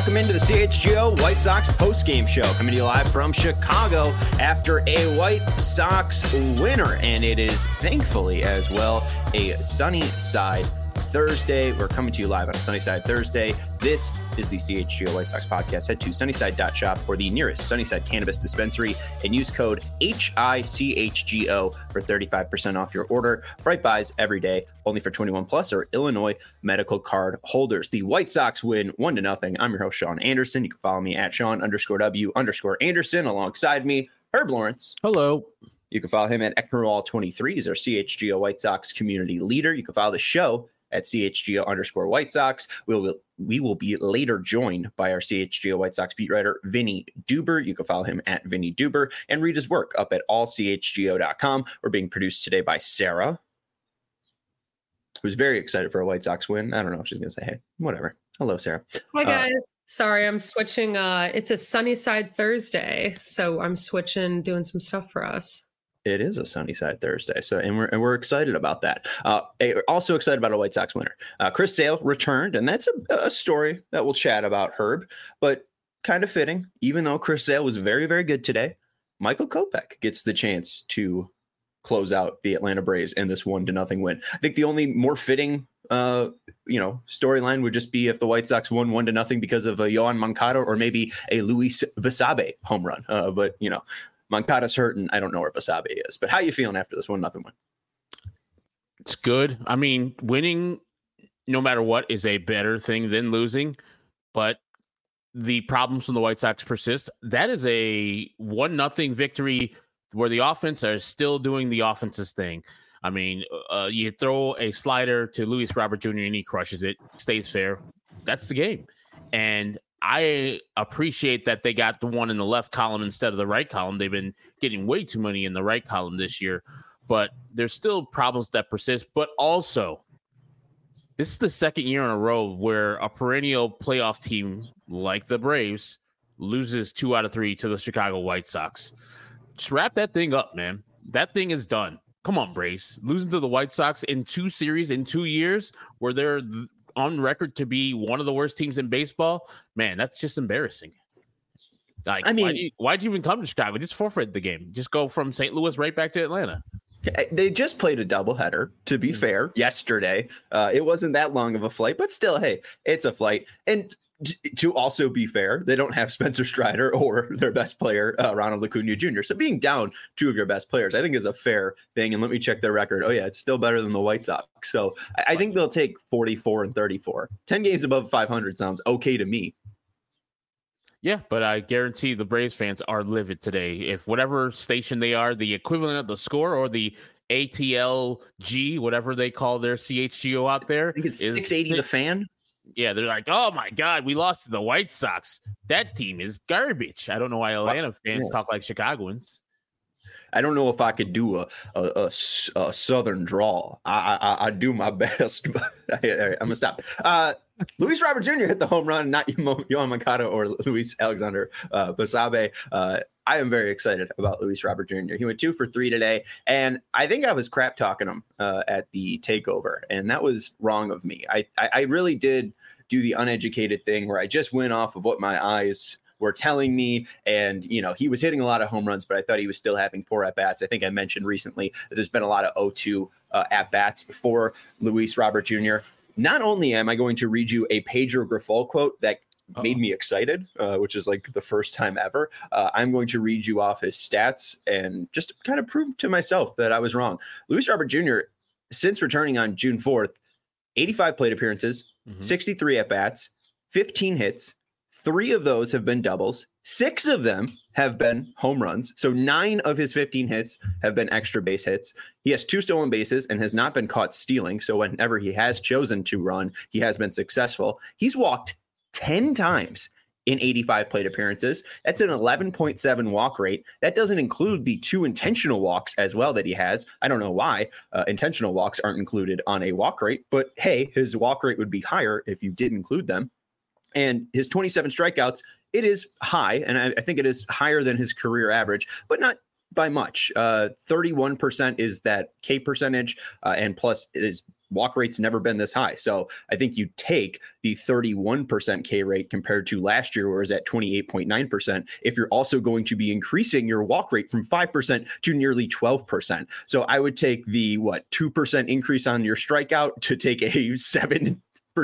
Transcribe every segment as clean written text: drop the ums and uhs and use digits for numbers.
Welcome into the CHGO White Sox postgame show, coming to you live from Chicago after a White Sox winner. And it is thankfully as well a sunny side Thursday. We're coming to you live on a sunny side Thursday. This is the CHGO White Sox podcast. Head to sunnyside.shop or the nearest Sunnyside cannabis dispensary and use code HICHGO for 35% off your order. Bright buys every day, only for 21 plus or Illinois medical card holders. The White Sox win 1-0. I'm your host, Sean Anderson. You can follow me at Sean_W_Anderson. Alongside me, Herb Lawrence. Hello. You can follow him at Ecknerall23. He's our CHGO White Sox community leader. You can follow the show at CHGO_White Sox. We will be later joined by our CHGO White Sox beat writer, Vinny Duber. You can follow him at Vinny Duber and read his work up at allchgo.com. We're being produced today by Sarah, who's very excited for a White Sox win. I don't know if she's going to say, hey, whatever. Hello, Sarah. Hi, guys. Sorry, I'm switching. It's a sunny side Thursday, so I'm switching, doing some stuff for us. It is a sunny side Thursday, so and we're excited about that. Also excited about a White Sox winner. Chris Sale returned, and that's a story that we'll chat about, Herb. But kind of fitting, even though Chris Sale was very, very good today, Michael Kopech gets the chance to close out the Atlanta Braves in this 1-0 win. I think the only more fitting storyline would just be if the White Sox won 1-0 because of a Yoan Moncada or maybe a Luis Basabe home run. But Moncada's hurt, and I don't know where Basabe is. But how you feeling after this 1-0 win? It's good. I mean, winning, no matter what, is a better thing than losing. But the problems from the White Sox persist. That is a 1-0 victory where the offense are still doing the offense's thing. I mean, you throw a slider to Luis Robert Jr. and he crushes it, stays fair. That's the game. And I appreciate that they got the one in the left column instead of the right column. They've been getting way too many in the right column this year, but there's still problems that persist. But also, this is the second year in a row where a perennial playoff team like the Braves loses 2 out of 3 to the Chicago White Sox. Just wrap that thing up, man. That thing is done. Come on, Braves. Losing to the White Sox in 2 series in 2 years where they're on record to be one of the worst teams in baseball, man, that's just embarrassing. Like, I mean, why'd you even come to Chicago? Just forfeit the game. Just go from St. Louis right back to Atlanta. They just played a doubleheader, to be fair, yesterday. It wasn't that long of a flight, but still, hey, it's a flight. And to also be fair, they don't have Spencer Strider or their best player, Ronald Acuna Jr. So being down 2 of your best players, I think is a fair thing. And let me check their record. Oh, yeah, it's still better than the White Sox. So I think they'll take 44 and 34. 10 games above 500 sounds okay to me. Yeah, but I guarantee the Braves fans are livid today. If whatever station they are, the equivalent of the Score or the ATLG, whatever they call their CHGO out there. I think it's 680 The Fan. Yeah, they're like, oh, my God, we lost to the White Sox. That team is garbage. I don't know why Atlanta fans talk like Chicagoans. I don't know if I could do a Southern drawl. I do my best, but I'm going to stop. Luis Robert Jr. hit the home run, not Yoan Moncada or Luis Alexander Basabe. I am very excited about Luis Robert Jr. He went 2 for 3 today, and I think I was crap talking him at the takeover, and that was wrong of me. I really did do the uneducated thing where I just went off of what my eyes were telling me, and he was hitting a lot of home runs, but I thought he was still having poor at bats. I think I mentioned recently that there's been a lot of 0-2 at bats for Luis Robert Jr. Not only am I going to read you a Pedro Grifol quote that made me excited, which is like the first time ever. I'm going to read you off his stats and just kind of prove to myself that I was wrong. Luis Robert Jr., since returning on June 4th, 85 plate appearances, 63 at bats, 15 hits. 3 of those have been doubles. 6 of them have been home runs. So 9 of his 15 hits have been extra base hits. He has 2 stolen bases and has not been caught stealing. So whenever he has chosen to run, he has been successful. He's walked 10 times in 85 plate appearances. That's an 11.7 walk rate. That doesn't include the 2 intentional walks as well that he has. I don't know why intentional walks aren't included on a walk rate, but hey, his walk rate would be higher if you did include them. And his 27 strikeouts, it is high, and I think it is higher than his career average, but not by much. 31% is that K percentage, and plus is walk rate's never been this high. So I think you take the 31% K rate compared to last year, where it was at 28.9%. If you're also going to be increasing your walk rate from 5% to nearly 12%. So I would take the 2% increase on your strikeout to take a 7%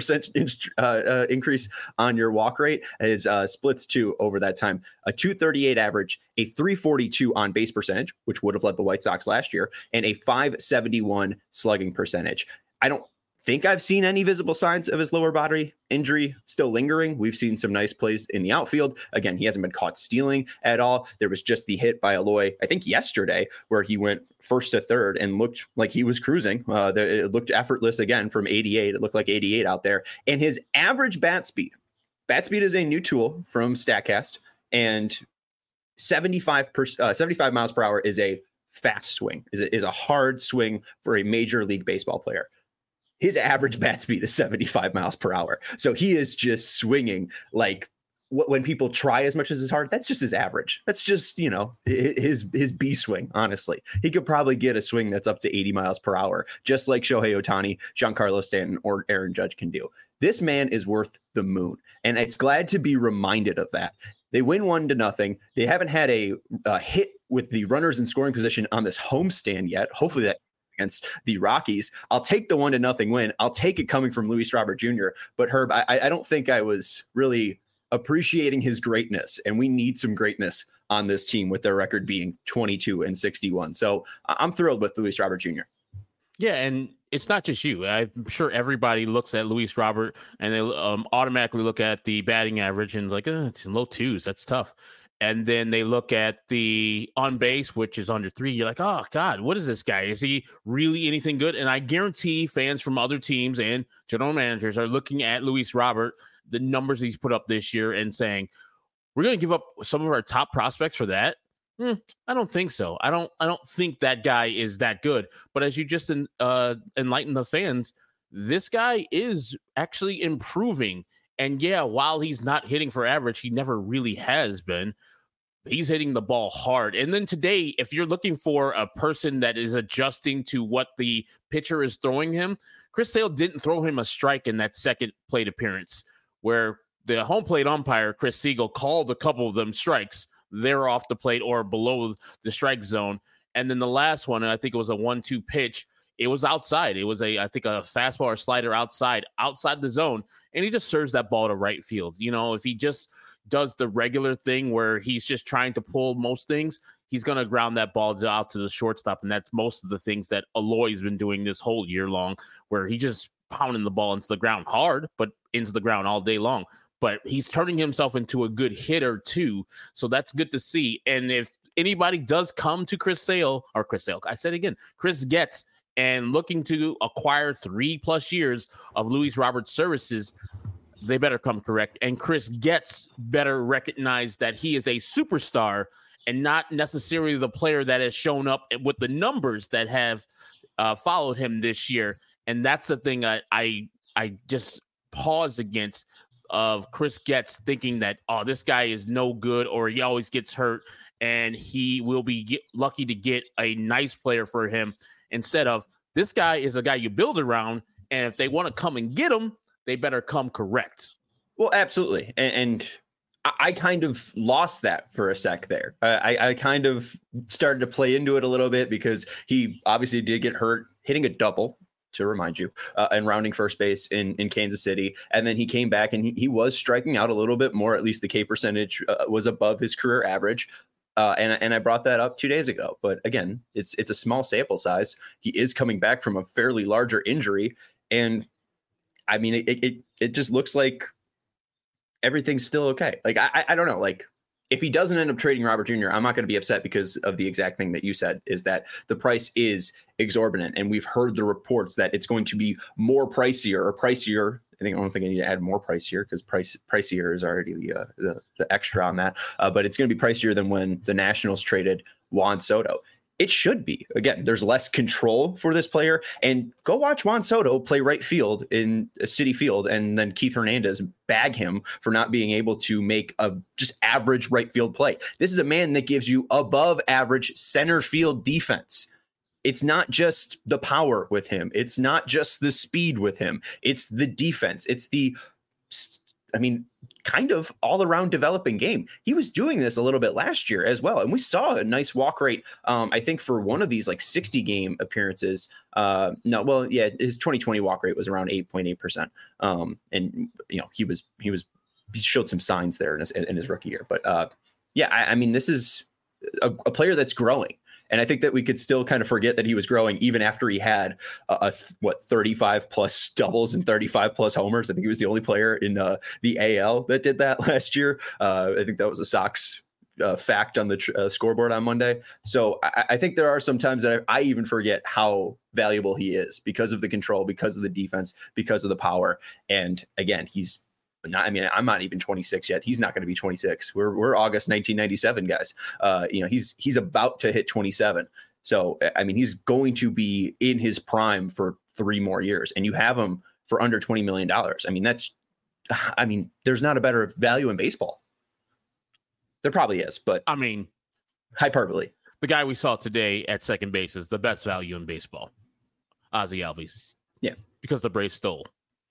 increase on your walk rate is splits 2 over that time. A 238 average, a 342 on base percentage, which would have led the White Sox last year, and a 571 slugging percentage. I don't think I've seen any visible signs of his lower body injury still lingering. We've seen some nice plays in the outfield. Again, he hasn't been caught stealing at all. There was just the hit by Eloy, I think yesterday, where he went first to third and looked like he was cruising. It looked effortless again from 88. It looked like 88 out there. And his average bat speed is a new tool from StatCast, and 75 miles per hour is a fast swing, is a hard swing for a Major League Baseball player. His average bat speed is 75 miles per hour. So he is just swinging like when people try as much as his hard, that's just his average. That's just, his B swing, honestly. He could probably get a swing that's up to 80 miles per hour, just like Shohei Ohtani, Giancarlo Stanton, or Aaron Judge can do. This man is worth the moon. And it's glad to be reminded of that. They win 1-0. They haven't had a hit with the runners in scoring position on this homestand yet. Hopefully that against the Rockies. I'll take the 1-0 win. I'll take it coming from Luis Robert Jr. But Herb, I don't think I was really appreciating his greatness, and we need some greatness on this team with their record being 22-61. So I'm thrilled with Luis Robert Jr. Yeah, and it's not just you. I'm sure everybody looks at Luis Robert and they automatically look at the batting average and like, it's in low twos. That's tough. And then they look at the on base, which is under 3. You're like, oh, God, what is this guy? Is he really anything good? And I guarantee fans from other teams and general managers are looking at Luis Robert, the numbers he's put up this year, and saying, we're going to give up some of our top prospects for that. I don't think so. I don't think that guy is that good. But as you just enlighten the fans, this guy is actually improving. And yeah, while he's not hitting for average, he never really has been. He's hitting the ball hard. And then today, if you're looking for a person that is adjusting to what the pitcher is throwing him, Chris Sale didn't throw him a strike in that second plate appearance, where the home plate umpire, Chris Siegel, called a couple of them strikes. They're off the plate or below the strike zone. And then the last one, I think it was a 1-2 pitch. It was outside. It was I think a fastball or slider outside the zone. And he just serves that ball to right field. If he just does the regular thing where he's just trying to pull most things, he's going to ground that ball out to the shortstop. And that's most of the things that Eloy's been doing this whole year long, where he just pounding the ball into the ground hard, but into the ground all day long. But he's turning himself into a good hitter too. So that's good to see. And if anybody does come to Chris Getz, and looking to acquire 3+ years of Luis Robert's services, they better come correct. And Chris Getz better recognize that he is a superstar and not necessarily the player that has shown up with the numbers that have followed him this year. And that's the thing I just pause against, of Chris Getz thinking that, this guy is no good, or he always gets hurt and he will be lucky to get a nice player for him, instead of, this guy is a guy you build around, and if they want to come and get him, they better come correct. Well, absolutely. And I kind of lost that for a sec there. I kind of started to play into it a little bit, because he obviously did get hurt hitting a double, to remind you, and rounding first base in Kansas City. And then he came back and he was striking out a little bit more. At least the K percentage was above his career average. And I brought that up 2 days ago. But again, it's a small sample size. He is coming back from a fairly larger injury. And I mean, it just looks like everything's still okay. Like, I don't know, like, if he doesn't end up trading Robert Jr., I'm not going to be upset, because of the exact thing that you said, is that the price is exorbitant. And we've heard the reports that it's going to be more pricier. I don't think I need to add more pricier, because pricier is already the extra on that. But it's going to be pricier than when the Nationals traded Juan Soto. It should be. Again, there's less control for this player. And go watch Juan Soto play right field in Citi Field, and then Keith Hernandez bag him for not being able to make a just average right field play. This is a man that gives you above average center field defense. it's not just the power with him. It's not just the speed with him. It's the defense. It's kind of all around developing game. He was doing this a little bit last year as well. And we saw a nice walk rate. I think for one of these like 60 game appearances, his 2020 walk rate was around 8.8%. And he showed some signs there in his rookie year, but this is a player that's growing. And I think that we could still kind of forget that he was growing even after he had 35 plus doubles and 35 plus homers. I think he was the only player in the AL that did that last year. I think that was a Sox fact on the scoreboard on Monday. So I think there are some times that I even forget how valuable he is because of the control, because of the defense, because of the power. And again, I'm not even 26 yet. He's not going to be 26. We're August 1997 guys. He's about to hit 27. So, he's going to be in his prime for 3 more years, and you have him for under $20 million. There's not a better value in baseball. There probably is, but hyperbole. The guy we saw today at second base is the best value in baseball. Ozzie Albies. Yeah. Because the Braves stole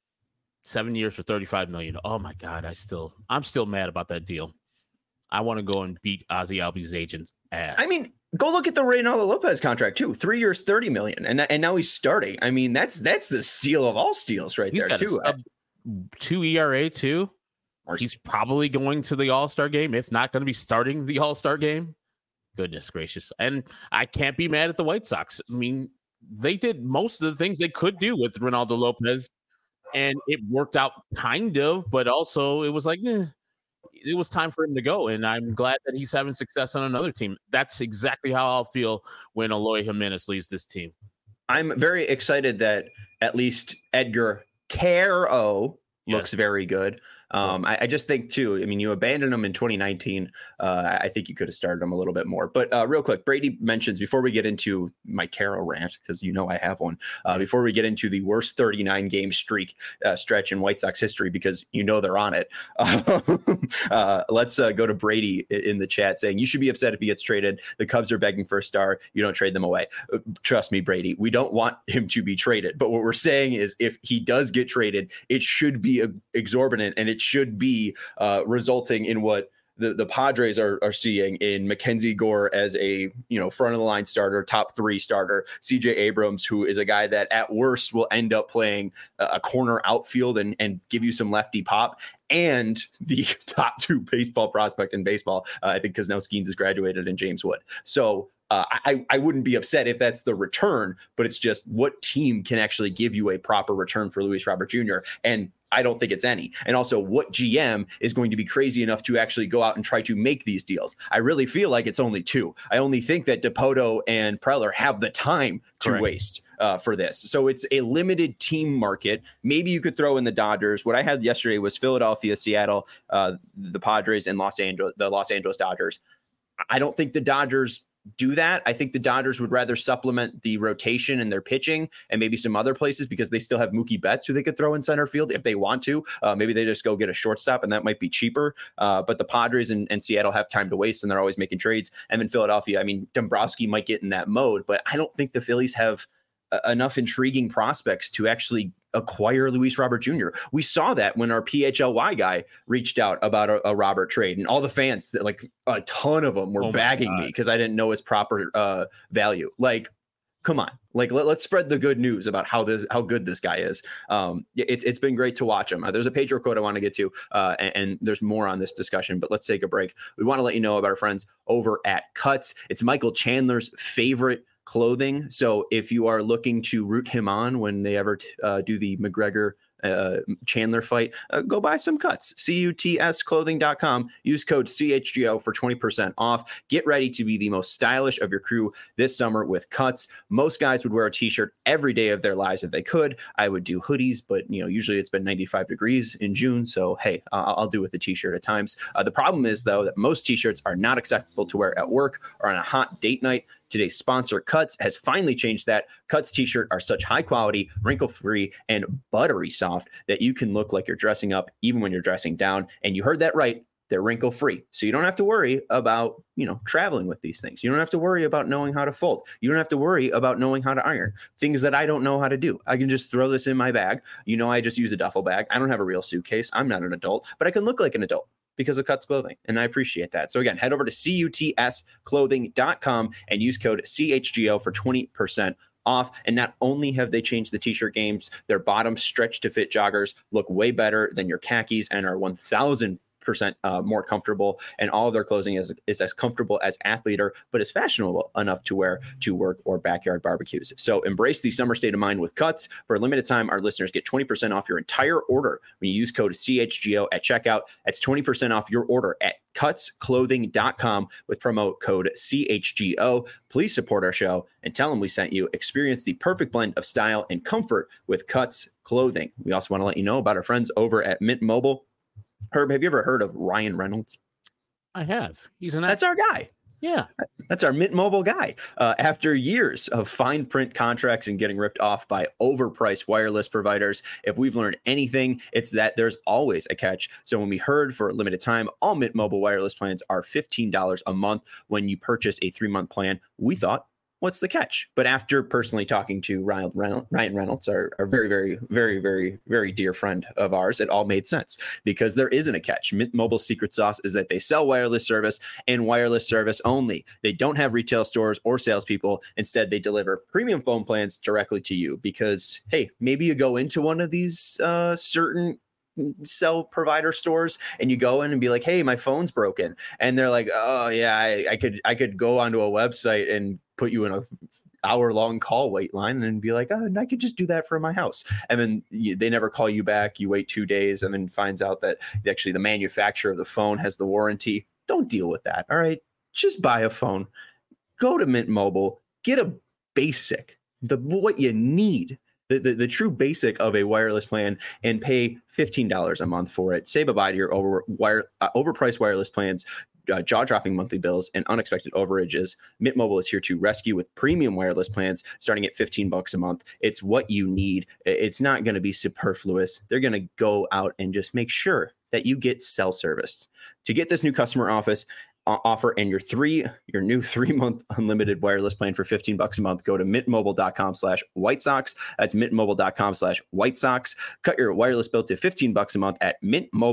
7 years for $35 million. Oh my God. I'm still mad about that deal. I want to go and beat Ozzie Albies' agent's ass. Go look at the Reynaldo Lopez contract too. 3 years, $30 million. And now he's starting. That's the steal of all steals right there too. 2 ERA too. He's probably going to the All-Star game, if not going to be starting the All-Star game. Goodness gracious. And I can't be mad at the White Sox. They did most of the things they could do with Reynaldo Lopez, and it worked out kind of, but also it was like, it was time for him to go. And I'm glad that he's having success on another team. That's exactly how I'll feel when Eloy Jimenez leaves this team. I'm very excited that at least Edgar Caro looks very good. I just think too, you abandoned him in 2019. I think you could have started him a little bit more, but real quick, Brady mentions before we get into my Caro rant, because I have one, before we get into the worst 39 game stretch in White Sox history, because they're on it. Let's go to Brady in the chat saying you should be upset if he gets traded. The Cubs are begging for a star. You don't trade them away. Trust me, Brady, we don't want him to be traded, but what we're saying is if he does get traded, it should be exorbitant, and it should be resulting in what the Padres are seeing in Mackenzie Gore as a front of the line starter, top 3 starter, CJ Abrams, who is a guy that at worst will end up playing a corner outfield and give you some lefty pop, and the top 2 baseball prospect in baseball. I think because now Skeens has graduated in James Wood. So I wouldn't be upset if that's the return, but it's just what team can actually give you a proper return for Luis Robert Jr. And I don't think it's any. And also, what GM is going to be crazy enough to actually go out and try to make these deals? I really feel like it's only 2. I only think that Dipoto and Preller have the time to waste for this. So it's a limited team market. Maybe you could throw in the Dodgers. What I had yesterday was Philadelphia, Seattle, the Padres, and the Los Angeles Dodgers. I don't think the Dodgers do that. I think the Dodgers would rather supplement the rotation and their pitching and maybe some other places, because they still have Mookie Betts who they could throw in center field if they want to. Maybe they just go get a shortstop, and that might be cheaper. But the Padres and Seattle have time to waste, and they're always making trades. And in Philadelphia, Dombrowski might get in that mode, but I don't think the Phillies have enough intriguing prospects to actually acquire Luis Robert Jr. We saw that when our PHLY guy reached out about a Robert trade, and all the fans, like a ton of them, were bagging me because I didn't know his proper value. Like, come on, like let's spread the good news about how good this guy is. It's been great to watch him. There's a Pedro quote I want to get to, and there's more on this discussion, but let's take a break. We want to let you know about our friends over at Cuts. It's Michael Chandler's favorite clothing. So if you are looking to root him on when they ever do the McGregor Chandler fight, go buy some Cuts. CUTSclothing.com. Use code CHGO for 20% off. Get ready to be the most stylish of your crew this summer with Cuts. Most guys would wear a t-shirt every day of their lives if they could. I would do hoodies, but usually it's been 95 degrees in June, so hey, I'll do with the t-shirt at times. The problem is though that most t-shirts are not acceptable to wear at work or on a hot date night. Today's sponsor, Cuts, has finally changed that. Cuts t-shirt are such high quality, wrinkle-free, and buttery soft that you can look like you're dressing up even when you're dressing down. And you heard that right. They're wrinkle free. So you don't have to worry about, traveling with these things. You don't have to worry about knowing how to fold. You don't have to worry about knowing how to iron, things that I don't know how to do. I can just throw this in my bag. I just use a duffel bag. I don't have a real suitcase. I'm not an adult, but I can look like an adult because of Cuts Clothing. And I appreciate that. So again, head over to cutsclothing.com and use code CHGO for 20% off. And not only have they changed the t-shirt games, their bottoms stretch to fit joggers look way better than your khakis and are 1,000% more comfortable, and all of their clothing is as comfortable as Athleader, but is fashionable enough to wear to work or backyard barbecues. So embrace the summer state of mind with Cuts. For a limited time, our listeners get 20% off your entire order when you use code CHGO at checkout. That's 20% off your order at cutsclothing.com with promo code CHGO. Please support our show and tell them we sent you. Experience the perfect blend of style and comfort with Cuts Clothing. We also want to let you know about our friends over at Mint Mobile. Herb, have you ever heard of Ryan Reynolds? I have. That's our guy. Yeah. That's our Mint Mobile guy. After years of fine print contracts and getting ripped off by overpriced wireless providers, if we've learned anything, it's that there's always a catch. So when we heard for a limited time, all Mint Mobile wireless plans are $15 a month when you purchase a 3-month plan, we thought, what's the catch? But after personally talking to Ryan Reynolds, our very, very, very, very, very dear friend of ours, it all made sense because there isn't a catch. Mint Mobile's secret sauce is that they sell wireless service and wireless service only. They don't have retail stores or salespeople. Instead, they deliver premium phone plans directly to you because, hey, maybe you go into one of these certain cell provider stores and you go in and be like, hey, my phone's broken. And they're like, oh yeah, I could go onto a website and put you in a hour-long call wait line and be like, oh, and I could just do that from my house. And then they never call you back. You wait 2 days and then finds out that actually the manufacturer of the phone has the warranty. Don't deal with that. All right. Just buy a phone. Go to Mint Mobile. Get a basic, what you need. The true basic of a wireless plan and pay $15 a month for it. Say bye-bye to your overpriced wireless plans, jaw-dropping monthly bills, and unexpected overages. Mint Mobile is here to rescue with premium wireless plans starting at $15 a month. It's what you need. It's not going to be superfluous. They're going to go out and just make sure that you get cell serviced. To get this new customer offer and your new 3-month unlimited wireless plan for $15 a month, go to mintmobile.com/White Sox. That's mintmobile.com/White Sox. Cut your wireless bill to $15 a month at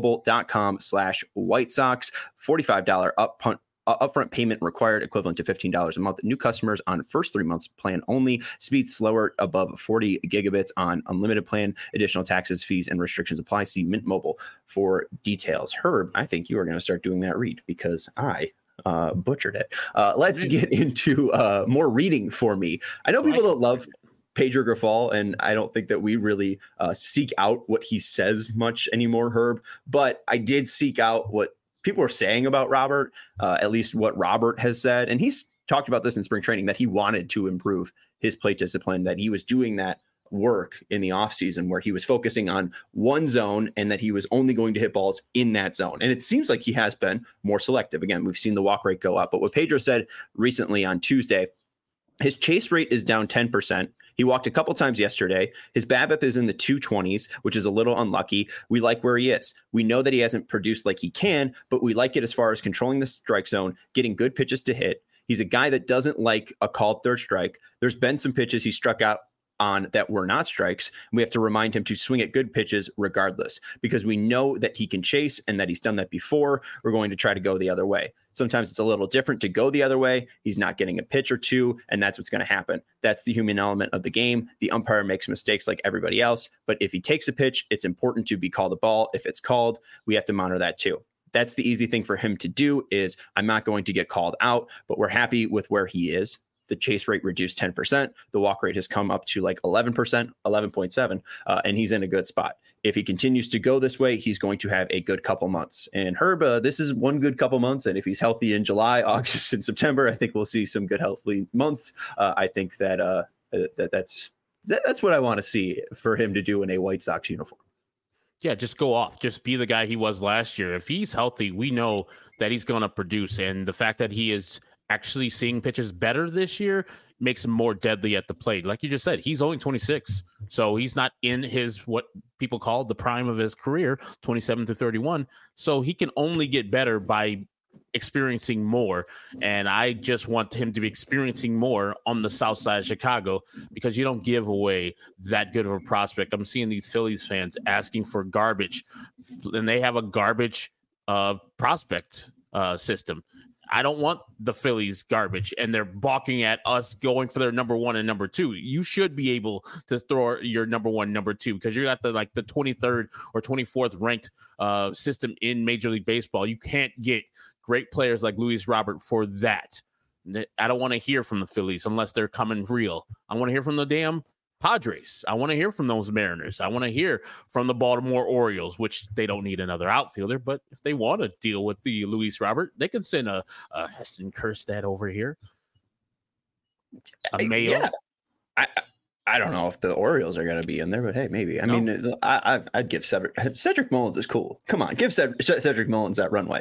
mintmobile.com/White Sox. $45 upfront payment required, equivalent to $15 a month. New customers on first 3 months plan only. Speed slower above 40 gigabits on unlimited plan. Additional taxes, fees, and restrictions apply. See Mint Mobile for details. Herb, I think you are going to start doing that read because I butchered it. Let's get into more reading for me. I know people don't love Pedro Grifol, and I don't think that we really seek out what he says much anymore, Herb, but I did seek out what people are saying about Robert, at least what Robert has said. And he's talked about this in spring training, that he wanted to improve his plate discipline, that he was doing that work in the offseason where he was focusing on one zone and that he was only going to hit balls in that zone. And it seems like he has been more selective. Again, we've seen the walk rate go up. But what Pedro said recently on Tuesday, his chase rate is down 10%. He walked a couple times yesterday. His BABIP is in the 220s, which is a little unlucky. We like where he is. We know that he hasn't produced like he can, but we like it as far as controlling the strike zone, getting good pitches to hit. He's a guy that doesn't like a called third strike. There's been some pitches he struck out on that were not strikes. We have to remind him to swing at good pitches regardless, because we know that he can chase and that he's done that before. We're going to try to go the other way. Sometimes it's a little different to go the other way. He's not getting a pitch or two, and that's what's going to happen. That's the human element of the game. The umpire makes mistakes like everybody else, but if he takes a pitch, it's important to be called a ball. If it's called, we have to monitor that too. That's the easy thing for him to do is I'm not going to get called out, but we're happy with where he is. The chase rate reduced 10%. The walk rate has come up to like 11%, 11.7, and he's in a good spot. If he continues to go this way, he's going to have a good couple months. And Herb, this is one good couple months. And if he's healthy in July, August, and September, I think we'll see some good healthy months. I think that that's what I want to see for him to do in a White Sox uniform. Yeah, just go off. Just be the guy he was last year. If he's healthy, we know that he's going to produce. And the fact that he is actually seeing pitches better this year makes him more deadly at the plate. Like you just said, he's only 26, so he's not in his what people call the prime of his career, 27 to 31. So he can only get better by experiencing more, and I just want him to be experiencing more on the south side of Chicago, because you don't give away that good of a prospect. I'm seeing these Phillies fans asking for garbage, and they have a garbage prospect system. I don't want the Phillies garbage, and they're balking at us going for their number one and number two. You should be able to throw your number one, number two, because you got the 23rd or 24th ranked system in Major League Baseball. You can't get great players like Luis Robert for that. I don't want to hear from the Phillies unless they're coming real. I want to hear from the damn Padres. I want to hear from those Mariners. I want to hear from the Baltimore Orioles, which they don't need another outfielder, but if they want to deal with the Luis Robert, they can send a Heston Kjerstad over here. A Mayo. Yeah. I don't know if the Orioles are going to be in there, but hey, maybe. I mean, I'd give Cedric Mullins is cool. Come on, give Cedric Mullins that runway.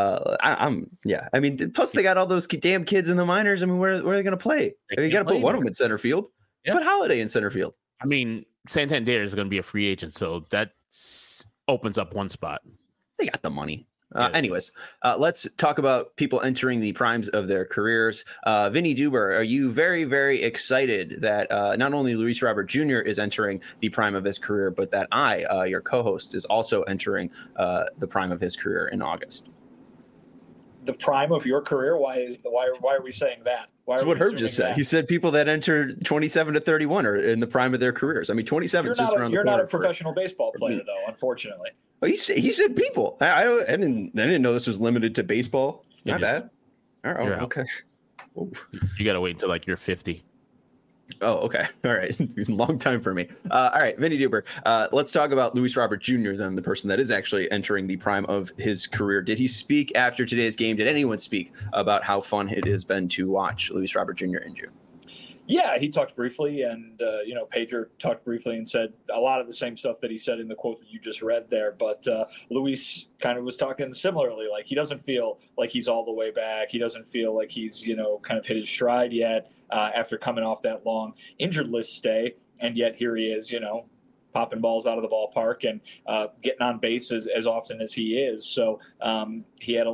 I mean, plus they got all those damn kids in the minors. I mean, where are they going to play? You got to put one of them in center field. Yeah. Put Holiday in center field. I mean, Santander is going to be a free agent, so that opens up one spot. They got the money. Anyways, let's talk about people entering the primes of their careers. Vinny Duber, are you very, very excited that not only Luis Robert Jr. is entering the prime of his career, but that your co-host, is also entering the prime of his career in August? The prime of your career? Why are we saying that? That's what Herb just said. He said people that enter 27 to 31 are in the prime of their careers. I mean, 27 is just around the corner. You're not a professional baseball player, though, unfortunately. Well, he said people. I didn't know this was limited to baseball. Not bad. All right. Okay. You got to wait until you're 50. Oh, okay. All right. Long time for me. All right, Vinny Duber. Let's talk about Luis Robert Jr., then, the person that is actually entering the prime of his career. Did he speak after today's game? Did anyone speak about how fun it has been to watch Luis Robert Jr. in June? Yeah, he talked briefly, and Pedro talked briefly and said a lot of the same stuff that he said in the quote that you just read there. But Luis kind of was talking similarly. Like, he doesn't feel like he's all the way back. He doesn't feel like he's kind of hit his stride yet after coming off that long injured list stay, and yet here he is, popping balls out of the ballpark and getting on base as often as he is. So he had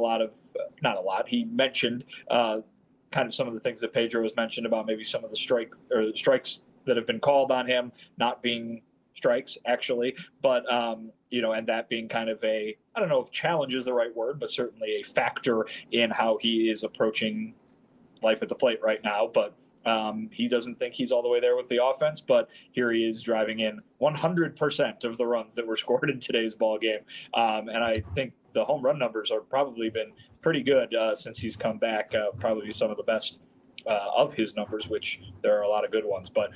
he mentioned kind of some of the things that Pedro has mentioned about maybe some of the strikes that have been called on him not being strikes actually, but and that being kind of I don't know if challenge is the right word, but certainly a factor in how he is approaching life at the plate right now. But he doesn't think he's all the way there with the offense, but here he is driving in 100% of the runs that were scored in today's ball game. And I think the home run numbers are probably been pretty good since he's come back, probably some of the best of his numbers, which there are a lot of good ones. But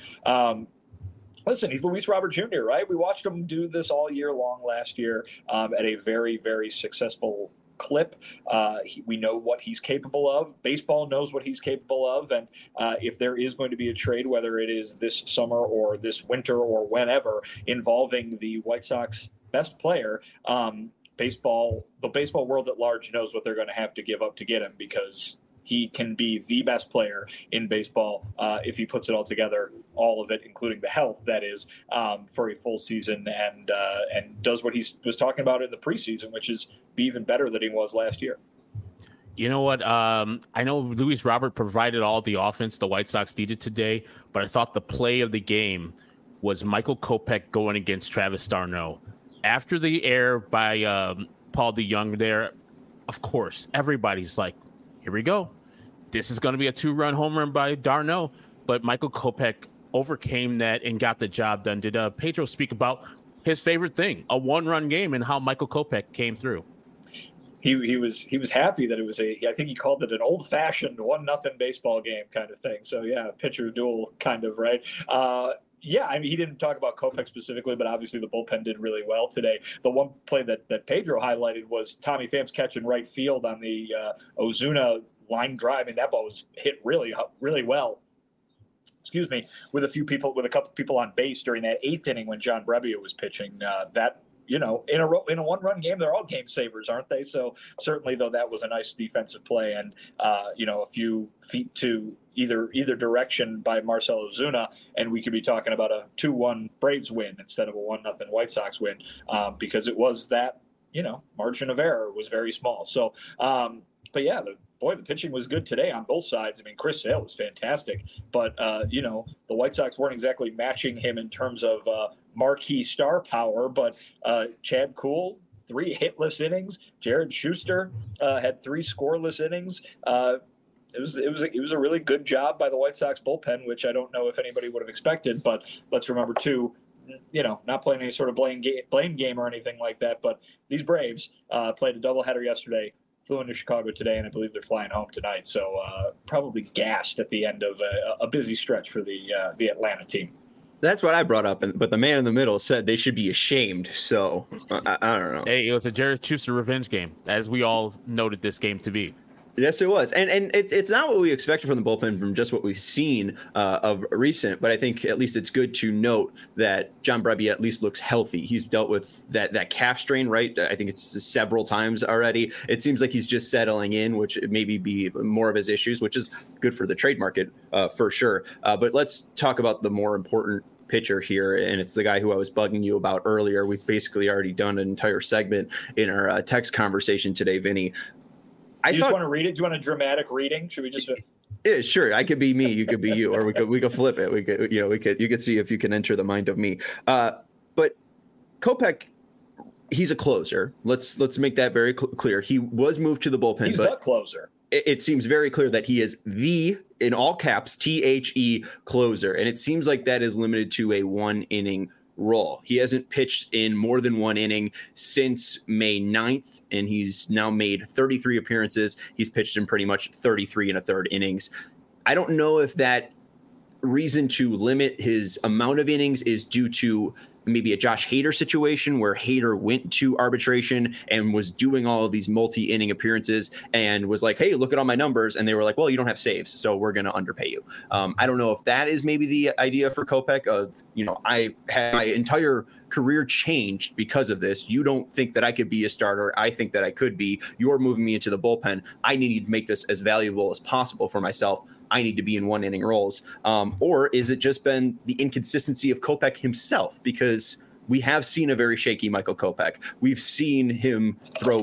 listen, he's Luis Robert Jr., right? We watched him do this all year long last year at a very, very successful clip. We know what he's capable of. Baseball knows what he's capable of. And if there is going to be a trade, whether it is this summer or this winter or whenever, involving the White Sox best player, the baseball world at large knows what they're going to have to give up to get him, because he can be the best player in baseball if he puts it all together, all of it, including the health, that is, for a full season, and does what he was talking about in the preseason, which is be even better than he was last year. You know what? I know Luis Robert provided all the offense the White Sox needed today, but I thought the play of the game was Michael Kopech going against Travis d'Arnaud. After the error by Paul DeJong there, of course, everybody's like, here we go. This is going to be a 2-run home run by d'Arnaud, but Michael Kopech overcame that and got the job done. Did Pedro speak about his favorite thing, a 1-run game, and how Michael Kopech came through? He was happy that it was I think he called it an old-fashioned 1-0 baseball game kind of thing. So yeah, pitcher duel kind of, right? Yeah, I mean, he didn't talk about Kopech specifically, but obviously the bullpen did really well today. The one play that Pedro highlighted was Tommy Pham's catch in right field on the Ozuna line drive. I mean, that ball was hit really, really well. With a couple people on base during that 8th inning when John Brebbia was pitching. That in a one-run game, they're all game savers, aren't they? So certainly, though, that was a nice defensive play, and a few feet to either direction by Marcell Ozuna, and we could be talking about a 2-1 Braves win instead of a 1-0 White Sox win, because it was that margin of error was very small. So, but yeah, the pitching was good today on both sides. I mean, Chris Sale was fantastic, but the White Sox weren't exactly matching him in terms of marquee star power. But Chad Kuhl, 3 hitless innings. Jared Schuster had 3 scoreless innings. It was a really good job by the White Sox bullpen, which I don't know if anybody would have expected. But let's remember too, not playing any sort of blame game or anything like that. But these Braves played a doubleheader yesterday, flew into Chicago today, and I believe they're flying home tonight. So probably gassed at the end of a busy stretch for the Atlanta team. That's what I brought up, but the man in the middle said they should be ashamed. So I don't know. Hey, it was a Jared Schuster revenge game, as we all noted this game to be. Yes, it was. And it's not what we expected from the bullpen from just what we've seen of recent, but I think at least it's good to note that John Brebbia at least looks healthy. He's dealt with that calf strain, right? I think it's several times already. It seems like he's just settling in, which maybe be more of his issues, which is good for the trade market for sure. But let's talk about the more important pitcher here, and it's the guy who I was bugging you about earlier. We've basically already done an entire segment in our text conversation today, Vinny. Do you just want to read it? Do you want a dramatic reading? Should we just? Yeah, sure. I could be me. You could be you, or we could flip it. You could see if you can enter the mind of me. But Kopech, he's a closer. Let's make that very clear. He was moved to the bullpen. He's the closer. It seems very clear that he is the, in all caps, THE closer, and it seems like that is limited to a 1-inning role. He hasn't pitched in more than 1 inning since May 9th, and he's now made 33 appearances. He's pitched in pretty much 33 1/3 innings. I don't know if that reason to limit his amount of innings is due to maybe a Josh Hader situation where Hader went to arbitration and was doing all of these multi-inning appearances and was like, hey, look at all my numbers. And they were like, well, you don't have saves, so we're going to underpay you. I don't know if that is maybe the idea for Kopech of, I had my entire career changed because of this. You don't think that I could be a starter. I think that I could be. You're moving me into the bullpen. I need to make this as valuable as possible for myself. I need to be in 1-inning roles. Or is it just been the inconsistency of Kopech himself? Because we have seen a very shaky Michael Kopech. We've seen him throw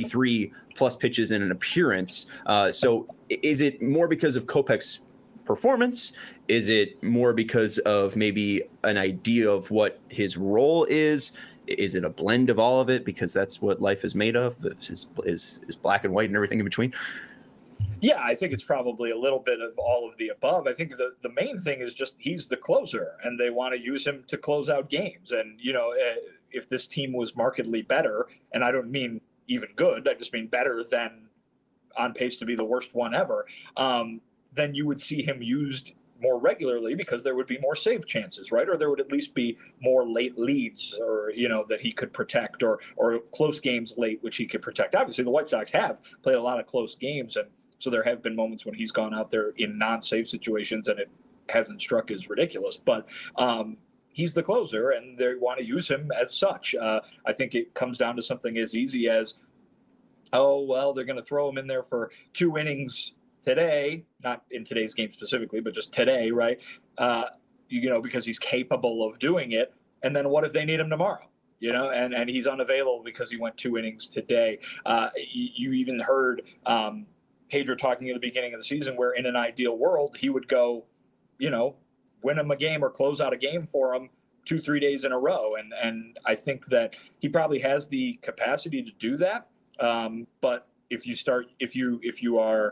33 plus pitches in an appearance. So is it more because of Kopech's performance? Is it more because of maybe an idea of what his role is? Is it a blend of all of it? Because that's what life is made of, is black and white and everything in between. Yeah, I think it's probably a little bit of all of the above. I think the main thing is just he's the closer, and they want to use him to close out games. And, if this team was markedly better, and I don't mean even good, I just mean better than on pace to be the worst one ever, then you would see him used more regularly because there would be more save chances, right? Or there would at least be more late leads or, that he could protect or close games late, which he could protect. Obviously, the White Sox have played a lot of close games, and so there have been moments when he's gone out there in non-save situations and it hasn't struck as ridiculous. But he's the closer, and they want to use him as such. I think it comes down to something as easy as, oh, well, they're going to throw him in there for 2 innings today, not in today's game specifically, but just today, right? Because he's capable of doing it. And then what if they need him tomorrow? And he's unavailable because he went 2 innings today. You even heard Pedro talking at the beginning of the season where in an ideal world, he would go, win him a game or close out a game for him 2-3 days in a row. And I think that he probably has the capacity to do that. But if you are,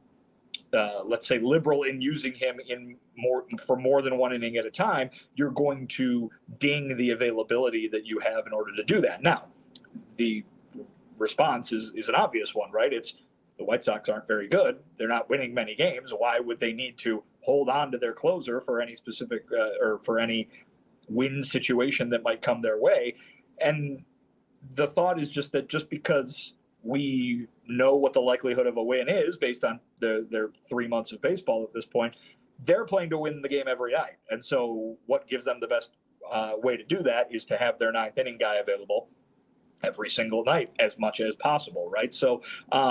let's say, liberal in using him for more than 1 inning at a time, you're going to ding the availability that you have in order to do that. Now, the response is an obvious one, right? It's the White Sox aren't very good. They're not winning many games. Why would they need to hold on to their closer for any specific or for any win situation that might come their way? And the thought is just that just because we know what the likelihood of a win is based on their 3 months of baseball at this point, they're playing to win the game every night. And so what gives them the best way to do that is to have their ninth inning guy available every single night as much as possible, right? So,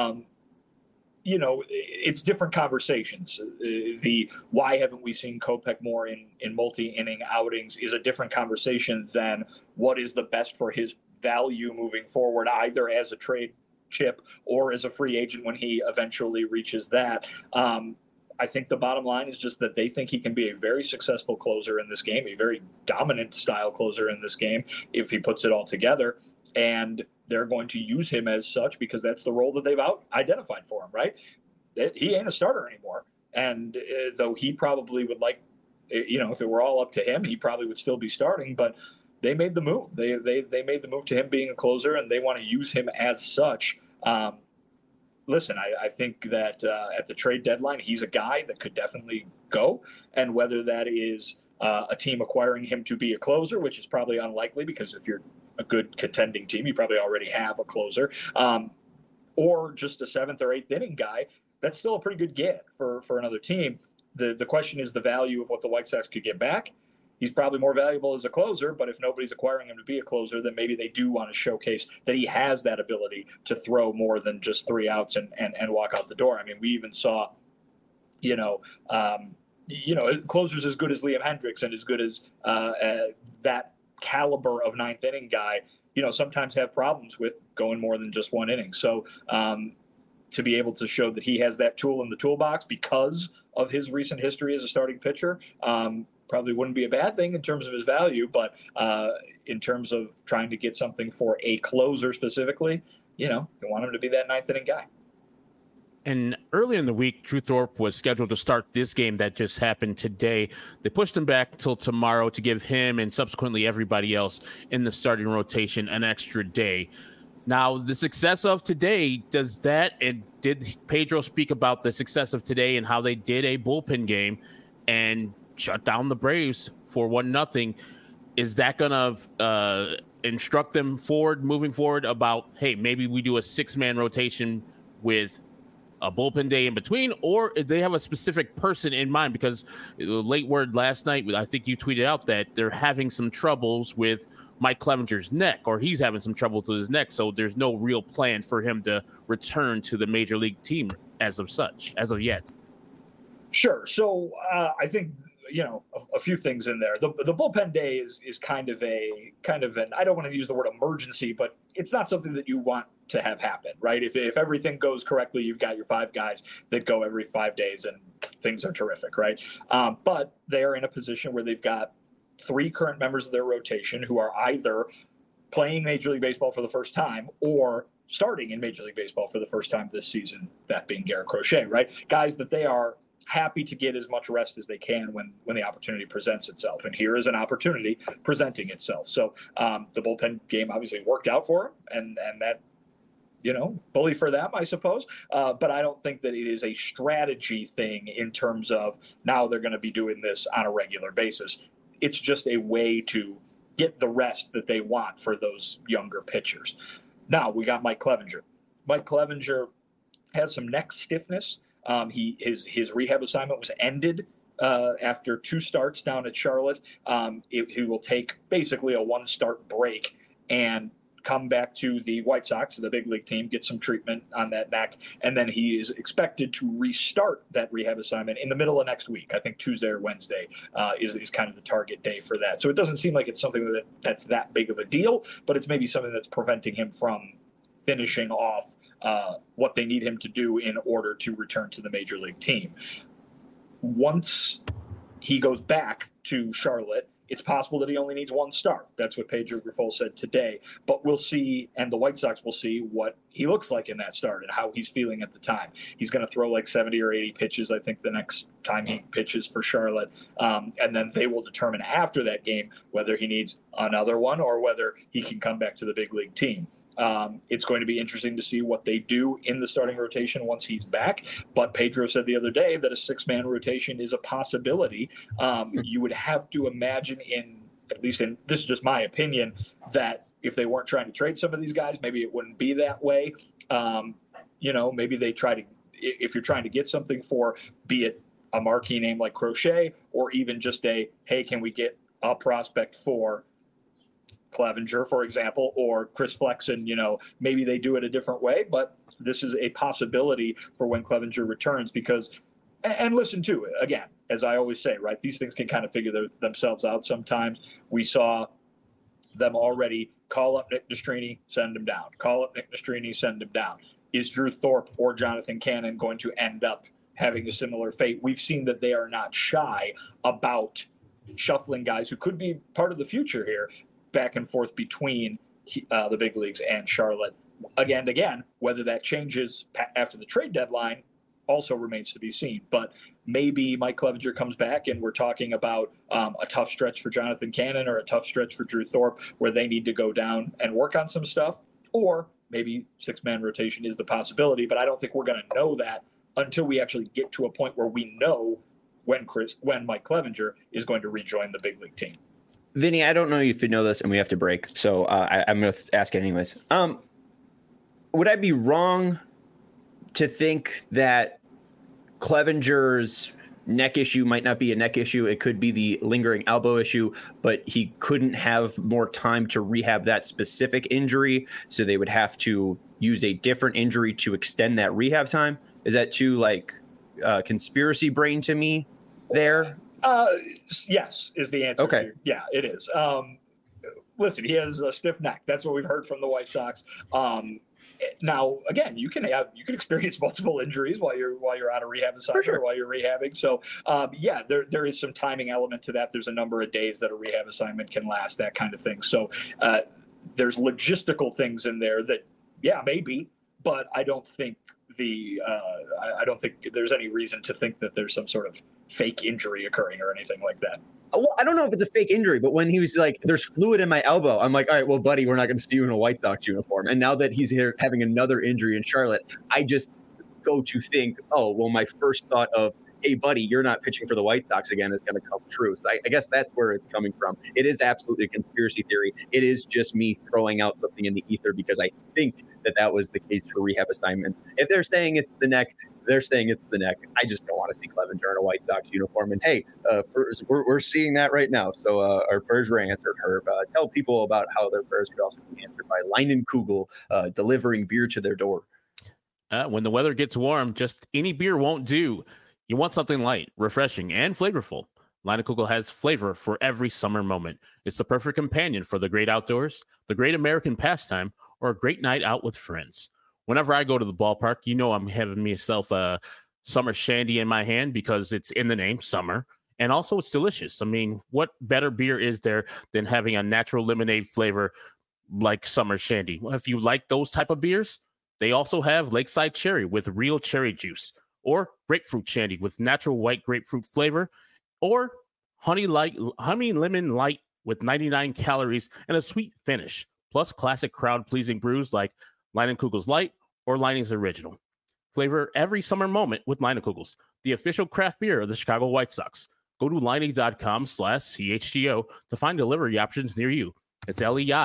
it's different conversations. The why haven't we seen Kopech more in multi-inning outings is a different conversation than what is the best for his value moving forward, either as a trade chip or as a free agent when he eventually reaches that. I think the bottom line is just that they think he can be a very successful closer in this game, a very dominant style closer in this game if he puts it all together. And they're going to use him as such because that's the role that they've identified for him, right? He ain't a starter anymore. And though he probably would like, if it were all up to him, he probably would still be starting. But they made the move. They made the move to him being a closer, and they want to use him as such. Listen, I think that at the trade deadline, he's a guy that could definitely go. And whether that is a team acquiring him to be a closer, which is probably unlikely because if you're a good contending team, you probably already have a closer, or just a seventh or eighth inning guy, that's still a pretty good get for another team. The question is the value of what the White Sox could get back. He's probably more valuable as a closer, but if nobody's acquiring him to be a closer, then maybe they do want to showcase that he has that ability to throw more than just 3 outs and walk out the door. I mean, we even saw, closers as good as Liam Hendricks and as good as that caliber of ninth inning guy, sometimes have problems with going more than just 1 inning. So to be able to show that he has that tool in the toolbox because of his recent history as a starting pitcher, probably wouldn't be a bad thing in terms of his value, but in terms of trying to get something for a closer specifically, you want him to be that ninth inning guy. And early in the week, Drew Thorpe was scheduled to start this game that just happened today. They pushed him back till tomorrow to give him and subsequently everybody else in the starting rotation an extra day. Now, the success of today, did Pedro speak about the success of today and how they did a bullpen game and shut down the Braves for 1-0? Is that going to instruct them moving forward about, hey, maybe we do a 6-man rotation with a bullpen day in between, or if they have a specific person in mind? Because late word last night, I think you tweeted out that they're having some troubles with Mike Clevenger's neck, or he's having some trouble with his neck. So there's no real plan for him to return to the major league team as of yet. Sure. So I think, a few things in there. The bullpen day is kind of an, I don't want to use the word emergency, but it's not something that you want to have happen, right? If everything goes correctly, you've got your 5 guys that go every 5 days and things are terrific, right? But they're in a position where they've got 3 current members of their rotation who are either playing Major League Baseball for the first time or starting in Major League Baseball for the first time this season, that being Garrett Crochet, right? Guys that they are happy to get as much rest as they can when the opportunity presents itself. And here is an opportunity presenting itself. So the bullpen game obviously worked out for him, and that, bully for them, I suppose. But I don't think that it is a strategy thing in terms of now they're going to be doing this on a regular basis. It's just a way to get the rest that they want for those younger pitchers. Now we got Mike Clevenger. Mike Clevenger has some neck stiffness. His rehab assignment was ended after 2 starts down at Charlotte. He will take basically a 1-start break and come back to the White Sox, the big league team, get some treatment on that neck, and then he is expected to restart that rehab assignment in the middle of next week. I think Tuesday or Wednesday is kind of the target day for that. So it doesn't seem like it's something that's that big of a deal, but it's maybe something that's preventing him from finishing off what they need him to do in order to return to the major league team. Once he goes back to Charlotte, it's possible that he only needs 1 start. That's what Pedro Grifol said today. But we'll see, and the White Sox will see what he looks like in that start and how he's feeling at the time. He's going to throw like 70 or 80 pitches, I think, the next time he pitches for Charlotte. And then they will determine after that game whether he needs another one or whether he can come back to the big league team. It's going to be interesting to see what they do in the starting rotation once he's back. But Pedro said the other day that a 6-man rotation is a possibility. You would have to imagine this is just my opinion, that if they weren't trying to trade some of these guys, maybe it wouldn't be that way. Maybe they try to, if you're trying to get something for, be it a marquee name like Crochet, or even just hey, can we get a prospect for Clevenger, for example, or Chris Flexen. Maybe they do it a different way, but this is a possibility for when Clevenger returns because, and listen to it again, as I always say, right? These things can kind of figure themselves out sometimes. We saw them already call up Nick Nastrini, send him down. Call up Nick Nastrini, send him down. Is Drew Thorpe or Jonathan Cannon going to end up having a similar fate? We've seen that they are not shy about shuffling guys who could be part of the future here back and forth between the big leagues and Charlotte. Again, whether that changes after the trade deadline also remains to be seen. But maybe Mike Clevenger comes back and we're talking about a tough stretch for Jonathan Cannon or a tough stretch for Drew Thorpe where they need to go down and work on some stuff. Or maybe six-man rotation is the possibility, but I don't think we're going to know that until we actually get to a point where we know when Mike Clevenger is going to rejoin the big league team. Vinny, I don't know if you know this, and we have to break, so I'm going to ask anyways. Would I be wrong to think that Clevenger's neck issue might not be a neck issue? It could be the lingering elbow issue, but he couldn't have more time to rehab that specific injury, so they would have to use a different injury to extend that rehab time. Is that too conspiracy brain to me there? Yes, is the answer. Okay. Yeah, it is. Listen, he has a stiff neck. That's what we've heard from the White Sox. Now, again, you can experience multiple injuries while you're on a rehab assignment, sure, or while you're rehabbing. So, there is some timing element to that. There's a number of days that a rehab assignment can last, that kind of thing. So, there's logistical things in there that, maybe, but I don't think I don't think there's any reason to think that there's some sort of fake injury occurring or anything like that. Well, I don't know if it's a fake injury, but when he was like, there's fluid in my elbow, I'm like, all right, well, buddy, we're not going to see you in a White Sox uniform. And now that he's here having another injury in Charlotte, I just go to think, oh, well, my first thought of, hey, buddy, you're not pitching for the White Sox again is going to come true. So I guess that's where it's coming from. It is absolutely a conspiracy theory. It is just me throwing out something in the ether because I think that was the case for rehab assignments. If they're saying it's the neck, they're saying it's the neck. I just don't want to see Clevenger in a White Sox uniform. And hey, we're seeing that right now. So our prayers were answered, Herb. Tell people about how their prayers could also be answered by Leinenkugel delivering beer to their door. When the weather gets warm, just any beer won't do. You want something light, refreshing, and flavorful. Leinenkugel has flavor for every summer moment. It's the perfect companion for the great outdoors, the great American pastime, or a great night out with friends. Whenever I go to the ballpark, I'm having myself a summer shandy in my hand because it's in the name, summer. And also it's delicious. I mean, what better beer is there than having a natural lemonade flavor like summer shandy? Well, if you like those type of beers, they also have Lakeside Cherry with real cherry juice, or grapefruit shandy with natural white grapefruit flavor, or honey lemon light with 99 calories and a sweet finish, plus classic crowd-pleasing brews like Leinenkugel's Light or Leining's Original. Flavor every summer moment with Leinenkugel's, the official craft beer of the Chicago White Sox. Go to Leining.com/CHGO to find delivery options near you. It's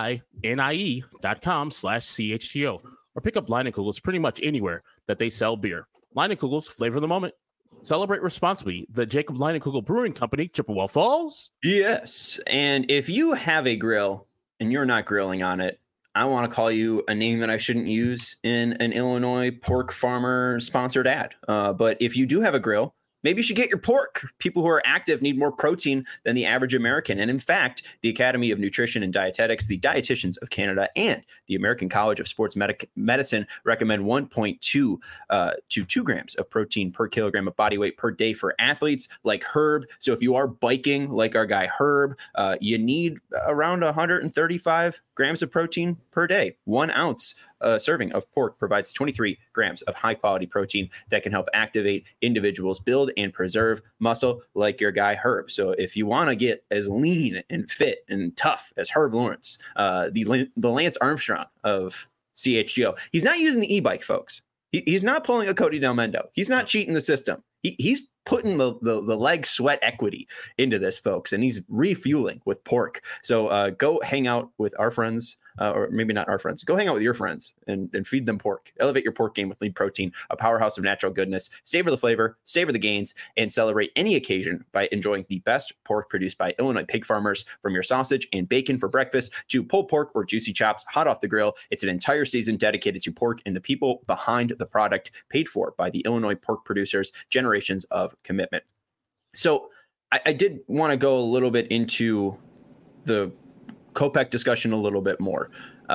LEINIE.com/CHGO, or pick up Leinenkugel's pretty much anywhere that they sell beer. Leinenkugel's, flavor of the moment. Celebrate responsibly. The Jacob Leinenkugel Brewing Company, Chippewa Falls. Yes, and if you have a grill and you're not grilling on it, I want to call you a name that I shouldn't use in an Illinois pork farmer sponsored ad. But if you do have a grill, maybe you should get your pork. People who are active need more protein than the average American. And in fact, the Academy of Nutrition and Dietetics, the Dietitians of Canada, and the American College of Sports Medicine recommend 1.2 to 2 grams of protein per kilogram of body weight per day for athletes like Herb. So if you are biking like our guy Herb, you need around 135 grams of protein per day. 1 ounce serving of pork provides 23 grams of high-quality protein that can help activate individuals, build and preserve muscle like your guy Herb. So if you want to get as lean and fit and tough as Herb Lawrence, the Lance Armstrong of CHGO, he's not using the e-bike, folks. He's not pulling a Cody Del Mendo. He's not cheating the system. He's putting the leg sweat equity into this, folks, and he's refueling with pork. So go hang out with our friends or maybe not our friends. Go hang out with your friends and feed them pork. Elevate your pork game with Lean Protein, a powerhouse of natural goodness. Savor the flavor, savor the gains, and celebrate any occasion by enjoying the best pork produced by Illinois pig farmers. From your sausage and bacon for breakfast to pulled pork or juicy chops hot off the grill, it's an entire season dedicated to pork and the people behind the product, paid for by the Illinois pork producers, generations of commitment. So I did want to go a little bit into the Kopech discussion a little bit more.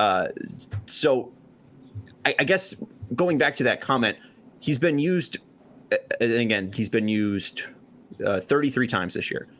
So I guess going back to that comment, he's been used, again, he's been used 33 times this year.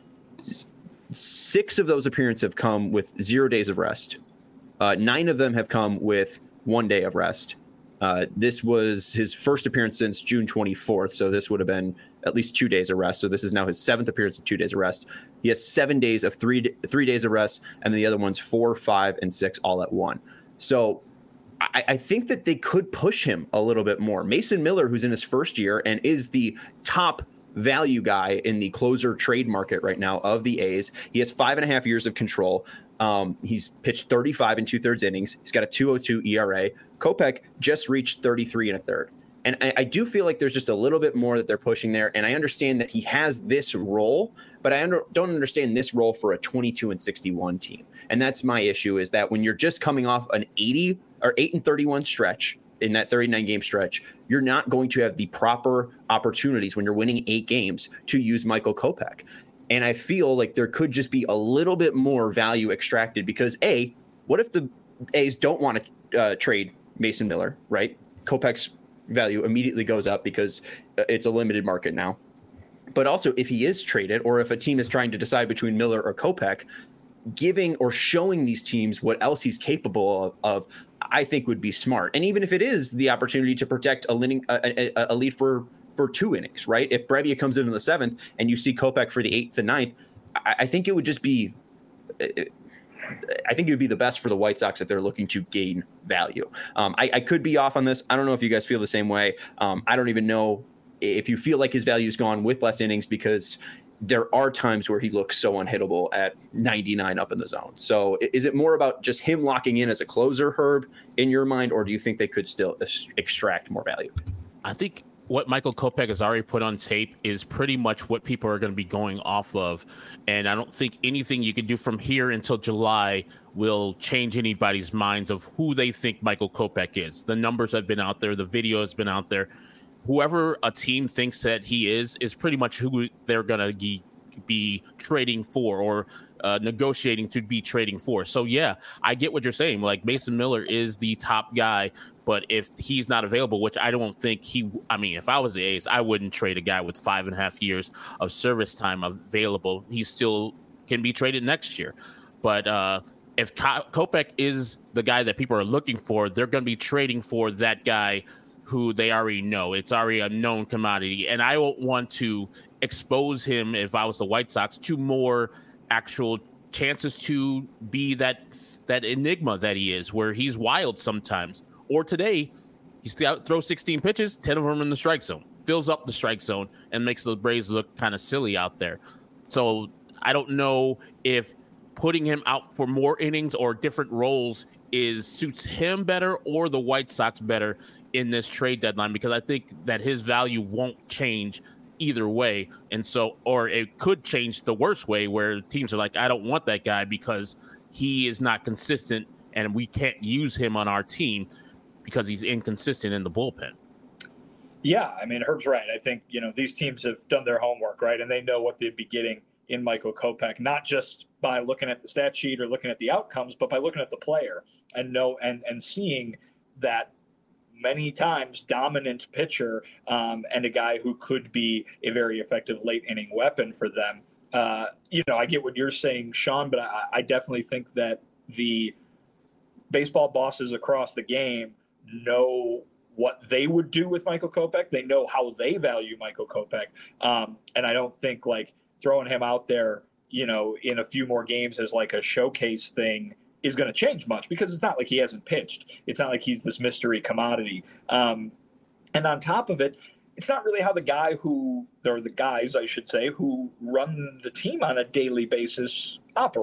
6 of those appearances have come with 0 days of rest. 9 of them have come with 1 day of rest. This was his first appearance since June 24th, so this would have been at least 2 days of rest. So this is now his 7th appearance with 2 days of rest. He has 7 days of three days of rest, and the other one's 4, 5, and 6 all at one. So I think that they could push him a little bit more. Mason Miller, who's in his first year and is the top value guy in the closer trade market right now of the A's. He has 5.5 years of control. He's pitched 35 and 2/3 innings. He's got a 2.02 ERA. Kopech just reached 33 1/3. And I do feel like there's just a little bit more that they're pushing there. And I understand that he has this role, but I don't understand this role for a 22-61 team. And that's my issue, is that when you're just coming off an 8 and 31 stretch, in that 39 game stretch, you're not going to have the proper opportunities when you're winning 8 games to use Michael Kopech. And I feel like there could just be a little bit more value extracted because what if the A's don't want to trade Mason Miller, right? Kopech's value immediately goes up because it's a limited market now. But also if he is traded, or if a team is trying to decide between Miller or Kopech, giving or showing these teams what else he's capable of, I think would be smart. And even if it is the opportunity to protect a lead for 2 innings, right? If Brebbia comes in the 7th and you see Kopech for the 8th and 9th, I think it would just be, I think it would be the best for the White Sox if they're looking to gain value. I could be off on this. I don't know if you guys feel the same way. I don't even know if you feel like his value is gone with less innings, because there are times where he looks so unhittable at 99 up in the zone. So is it more about just him locking in as a closer, Herb, in your mind, or do you think they could still extract more value? I think what Michael Kopech has already put on tape is pretty much what people are going to be going off of. And I don't think anything you can do from here until July will change anybody's minds of who they think Michael Kopech is. The numbers have been out there. The video has been out there. Whoever a team thinks that he is pretty much who they're going to be trading for, or negotiating to be trading for. So, yeah, I get what you're saying. Like, Mason Miller is the top guy, but if he's not available, which I don't think if I was the A's, I wouldn't trade a guy with 5.5 years of service time available. He still can be traded next year. But if Kopech is the guy that people are looking for, they're going to be trading for that guy who they already know. It's already a known commodity. And I won't want to expose him, if I was the White Sox, to more actual chances to be that enigma that he is, where he's wild sometimes. Or today, he throws 16 pitches, 10 of them in the strike zone, fills up the strike zone, and makes the Braves look kind of silly out there. So I don't know if putting him out for more innings or different roles suits him better or the White Sox better in this trade deadline, because I think that his value won't change either way. And so, or it could change the worst way, where teams are like, I don't want that guy because he is not consistent and we can't use him on our team because he's inconsistent in the bullpen. Yeah, I mean, Herb's right. I think, these teams have done their homework, right? And they know what they'd be getting in Michael Kopech, not just by looking at the stat sheet or looking at the outcomes, but by looking at the player and seeing that many times dominant pitcher, and a guy who could be a very effective late inning weapon for them. I get what you're saying, Sean, but I definitely think that the baseball bosses across the game know what they would do with Michael Kopech. They know how they value Michael Kopech. And I don't think like throwing him out there, in a few more games as like a showcase thing is going to change much, because it's not like he hasn't pitched. It's not like he's this mystery commodity. And on top of it, it's not really how the guys, I should say, who run the team on a daily basis operate.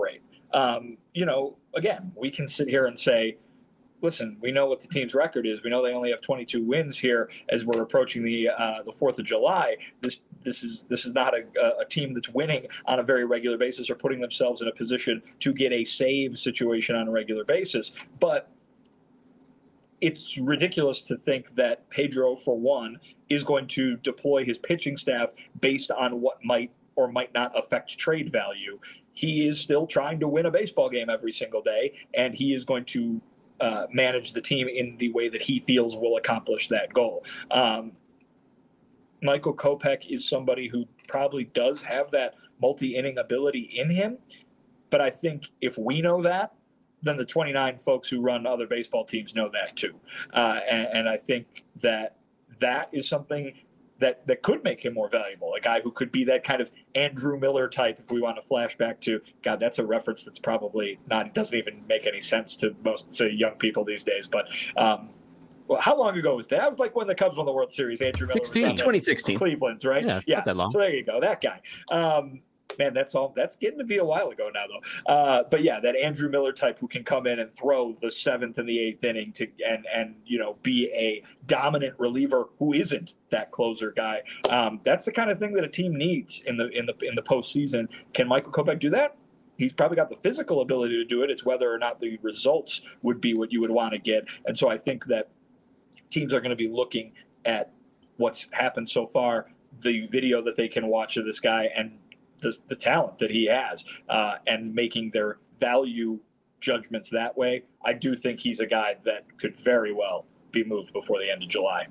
Again, we can sit here and say, listen, we know what the team's record is. We know they only have 22 wins here as we're approaching the 4th of July. This is not a team that's winning on a very regular basis or putting themselves in a position to get a save situation on a regular basis. But it's ridiculous to think that Pedro, for one, is going to deploy his pitching staff based on what might or might not affect trade value. He is still trying to win a baseball game every single day, and he is going to manage the team in the way that he feels will accomplish that goal. Michael Kopech is somebody who probably does have that multi-inning ability in him, but I think if we know that, then the 29 folks who run other baseball teams know that too. And I think that is something that could make him more valuable, a guy who could be that kind of Andrew Miller type, if we want to flash back to, God, that's a reference that's probably not, it doesn't even make any sense to most young people these days. But well, how long ago was that? That was like when the Cubs won the World Series. Andrew Miller 2016. Cleveland, right? Yeah, not that long. So there you go, that guy. Man, that's getting to be a while ago now, though. But yeah, that Andrew Miller type who can come in and throw the 7th and the 8th inning and be a dominant reliever who isn't that closer guy. That's the kind of thing that a team needs in the postseason. Can Michael Kopech do that? He's probably got the physical ability to do it. It's whether or not the results would be what you would want to get. And so I think that teams are going to be looking at what's happened so far, the video that they can watch of this guy, and the talent that he has, and making their value judgments that way. I do think he's a guy that could very well be moved before the end of July.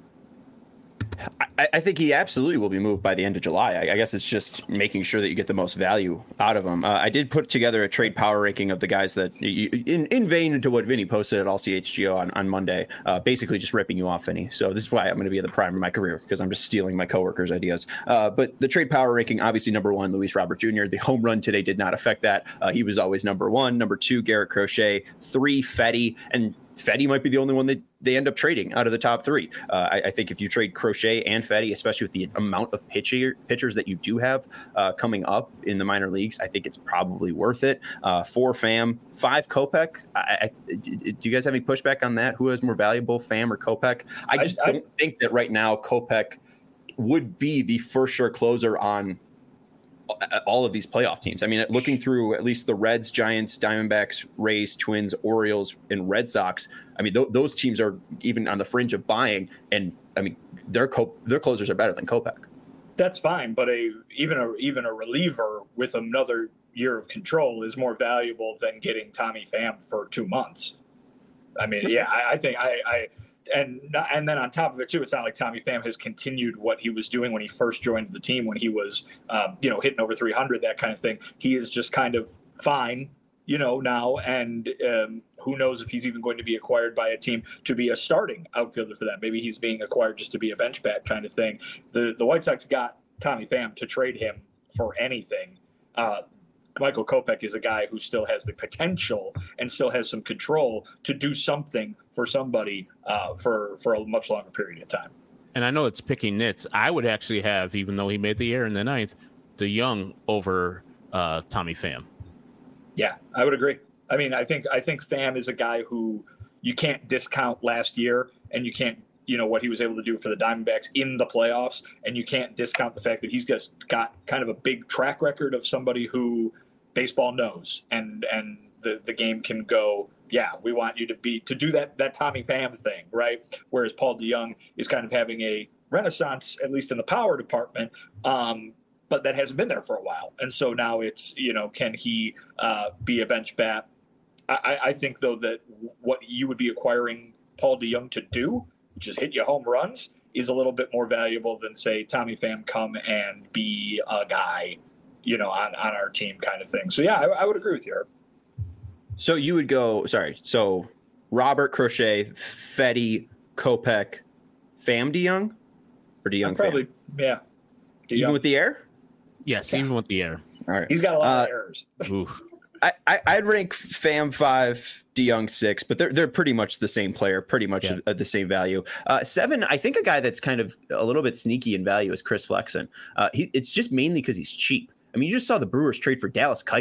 I think he absolutely will be moved by the end of July. I guess it's just making sure that you get the most value out of him. I did put together a trade power ranking of the guys that, in vain to what Vinny posted at All CHGO on Monday, basically just ripping you off, Vinny. So this is why I'm going to be at the prime of my career, because I'm just stealing my coworkers' ideas. But the trade power ranking, obviously number 1, Luis Robert Jr. The home run today did not affect that. He was always number 1. Number 2, Garrett Crochet. 3, Fedde. And Fedde might be the only one that they end up trading out of the top 3. I think if you trade Crochet and Fedde, especially with the amount of pitchers that you do have coming up in the minor leagues, I think it's probably worth it. 4, Pham. 5, Kopech. Do you guys have any pushback on that? Who has more valuable, Pham or Kopech? I don't think that right now Kopech would be the first sure closer on all of these playoff teams. I mean, looking through at least the Reds, Giants, Diamondbacks, Rays, Twins, Orioles, and Red Sox, I mean, those teams are even on the fringe of buying, and I mean, their closers are better than Kopech. That's fine, but even a reliever with another year of control is more valuable than getting Tommy Pham for 2 months. I mean, I think And then on top of it, too, it's not like Tommy Pham has continued what he was doing when he first joined the team, when he was, hitting over 300, that kind of thing. He is just kind of fine, now. And who knows if he's even going to be acquired by a team to be a starting outfielder for them. Maybe he's being acquired just to be a bench bat kind of thing. The White Sox got Tommy Pham to trade him for anything. Michael Kopech is a guy who still has the potential and still has some control to do something for somebody for a much longer period of time. And I know it's picking nits. I would actually have, even though he made the air in the 9th, DeYoung over Tommy Pham. Yeah, I would agree. I mean, I think Pham is a guy who you can't discount last year, and you can't, what he was able to do for the Diamondbacks in the playoffs, and you can't discount the fact that he's just got kind of a big track record of somebody who baseball knows, and the game can go, yeah, we want you to do that Tommy Pham thing, right? Whereas Paul DeYoung is kind of having a renaissance, at least in the power department, but that hasn't been there for a while. And so now it's, can he be a bench bat? I think, though, that what you would be acquiring Paul DeYoung to do, which is hit you home runs, is a little bit more valuable than, say, Tommy Pham come and be a guy on our team kind of thing. So, yeah, I would agree with you. So you would go, so Robert Crochet, Fedde, Kopech, Pham DeYoung? Or DeYoung probably, Pham? Yeah. DeYoung. Even with the air? Yes, even with the air. All right. He's got a lot of errors. Oof. I'd rank Pham 5, DeYoung 6, but they're pretty much the same player, pretty much at the same value. 7, I think a guy that's kind of a little bit sneaky in value is Chris Flexen. It's just mainly because he's cheap. I mean, you just saw the Brewers trade for Dallas Keuchel.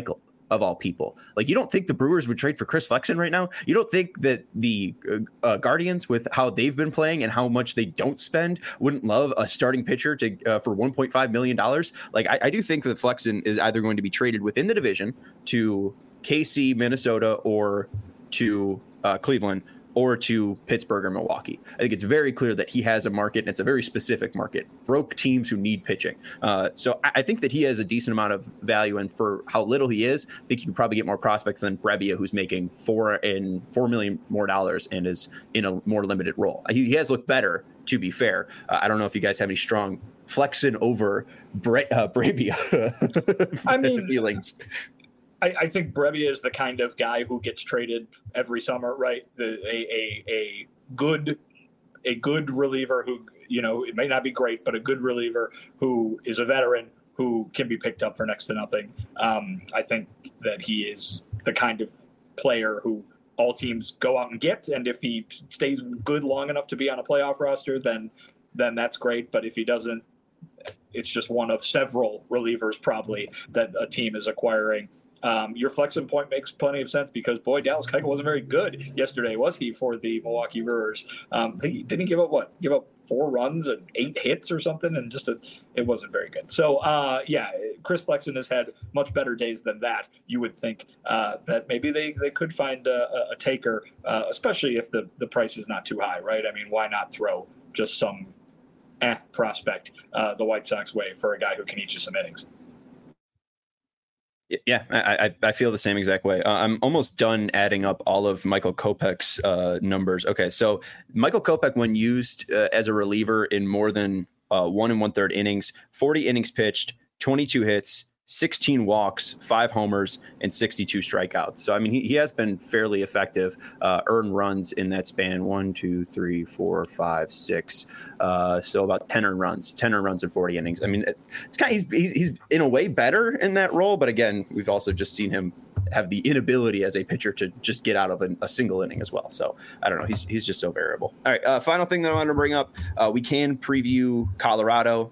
of all people. Like, you don't think the Brewers would trade for Chris Flexen right now? You don't think that the Guardians, with how they've been playing and how much they don't spend, wouldn't love a starting pitcher to for $1.5 million? Like, I do think that Flexen is either going to be traded within the division to KC, Minnesota, or to Cleveland, or to Pittsburgh or Milwaukee. I think it's very clear that he has a market, and it's a very specific market. Broke teams who need pitching. So I think that he has a decent amount of value, and for how little he is, I think you can probably get more prospects than Brebbia, who's making $4 million more dollars and is in a more limited role. He has looked better, to be fair. I don't know if you guys have any strong Flexen over Brebbia feelings. I think Brebbia is the kind of guy who gets traded every summer, right? A good reliever who, you know, it may not be great, but a good reliever who is a veteran who can be picked up for next to nothing. I think that he is the kind of player who all teams go out and get, and if he stays good long enough to be on a playoff roster, then that's great. But if he doesn't, it's just one of several relievers probably that a team is acquiring. Your Flexen point makes plenty of sense because, boy, Dallas Keuchel wasn't very good yesterday, was he, for the Milwaukee Brewers? Didn't he give up 4 runs and 8 hits or something? And it wasn't very good. So, Chris Flexen has had much better days than that. You would think that maybe they could find a taker, especially if the price is not too high, right? I mean, why not throw just some prospect the White Sox way for a guy who can eat you some innings? Yeah, I feel the same exact way. I'm almost done adding up all of Michael Kopech's numbers. Okay, so Michael Kopech, when used as a reliever in more than 1 1/3 innings, 40 innings pitched, 22 hits, 16 walks, 5 homers, and 62 strikeouts. So, I mean, he has been fairly effective, earned runs in that span. 1, 2, 3, 4, 5, 6. So about 10 earned runs in 40 innings. I mean, it's kind of, he's in a way better in that role. But again, we've also just seen him have the inability as a pitcher to just get out of a single inning as well. So I don't know. He's just so variable. All right. Final thing that I want to bring up, we can preview Colorado.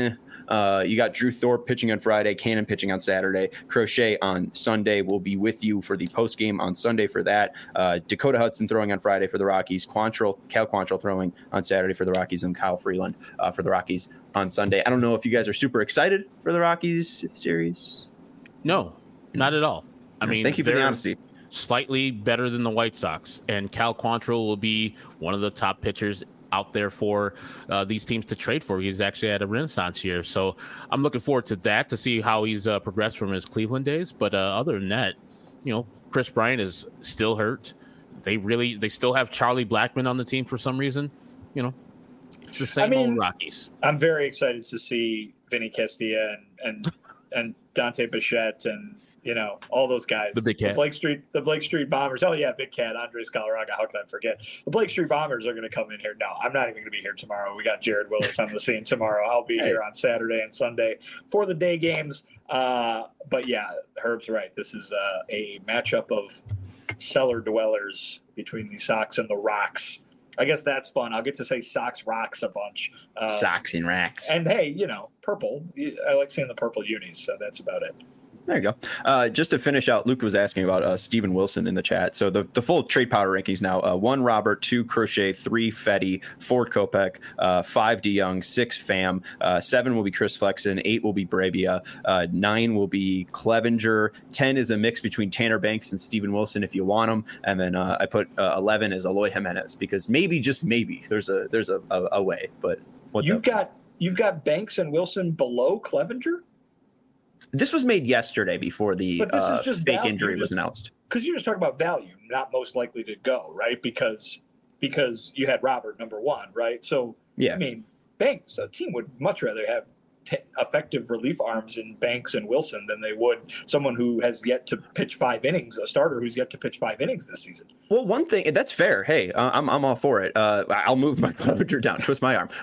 You got Drew Thorpe pitching on Friday, Cannon pitching on Saturday, Crochet on Sunday. We'll be with you for the post game on Sunday for that. Dakota Hudson throwing on Friday for the Rockies, Cal Quantrill throwing on Saturday for the Rockies, and Kyle Freeland for the Rockies on Sunday. I don't know if you guys are super excited for the Rockies series. No, not at all. I mean, thank you for the honesty. Slightly better than the White Sox, and Cal Quantrill will be one of the top pitchers out there for these teams to trade for. He's actually had a renaissance here. So I'm looking forward to that, to see how he's progressed from his Cleveland days. But other than that, you know, Chris Bryant is still hurt. They still have Charlie Blackmon on the team for some reason. You know, it's the same old Rockies. I'm very excited to see Vinny Castilla and Dante Bichette and, you know, all those guys. The Big Cat. The Blake Street Bombers. Oh, yeah, Big Cat, Andres Galarraga. How could I forget? The Blake Street Bombers are going to come in here. No, I'm not even going to be here tomorrow. We got Jared Willis on the scene tomorrow. I'll be here on Saturday and Sunday for the day games. But, yeah, Herb's right. This is a matchup of cellar dwellers between the Sox and the Rocks. I guess that's fun. I'll get to say Sox Rocks a bunch. Sox and Rocks. And, hey, you know, purple. I like seeing the purple unis, so that's about it. There you go. Just to finish out, Luke was asking about Steven Wilson in the chat. So the full trade power rankings now: 1 Robert, 2 Crochet, 3 Fetty, 4 Kopech, 5 DeYoung, 6 Pham, 7 will be Chris Flexen, 8 will be Brebbia, 9 will be Clevenger, 10 is a mix between Tanner Banks and Steven Wilson if you want them, and then I put 11 is Eloy Jimenez because maybe, just maybe, there's a way. But you've got Banks and Wilson below Clevenger. This was made yesterday before the fake injury was announced. Because you're just talking about value, not most likely to go, right? Because you had Robert number 1, right? So, yeah. I mean, Banks, a team would much rather have effective relief arms in Banks and Wilson than they would someone who has yet to pitch 5 innings, a starter who's yet to pitch 5 innings this season. Well, one thing, that's fair. Hey, I'm all for it. I'll move my Clevenger down, twist my arm.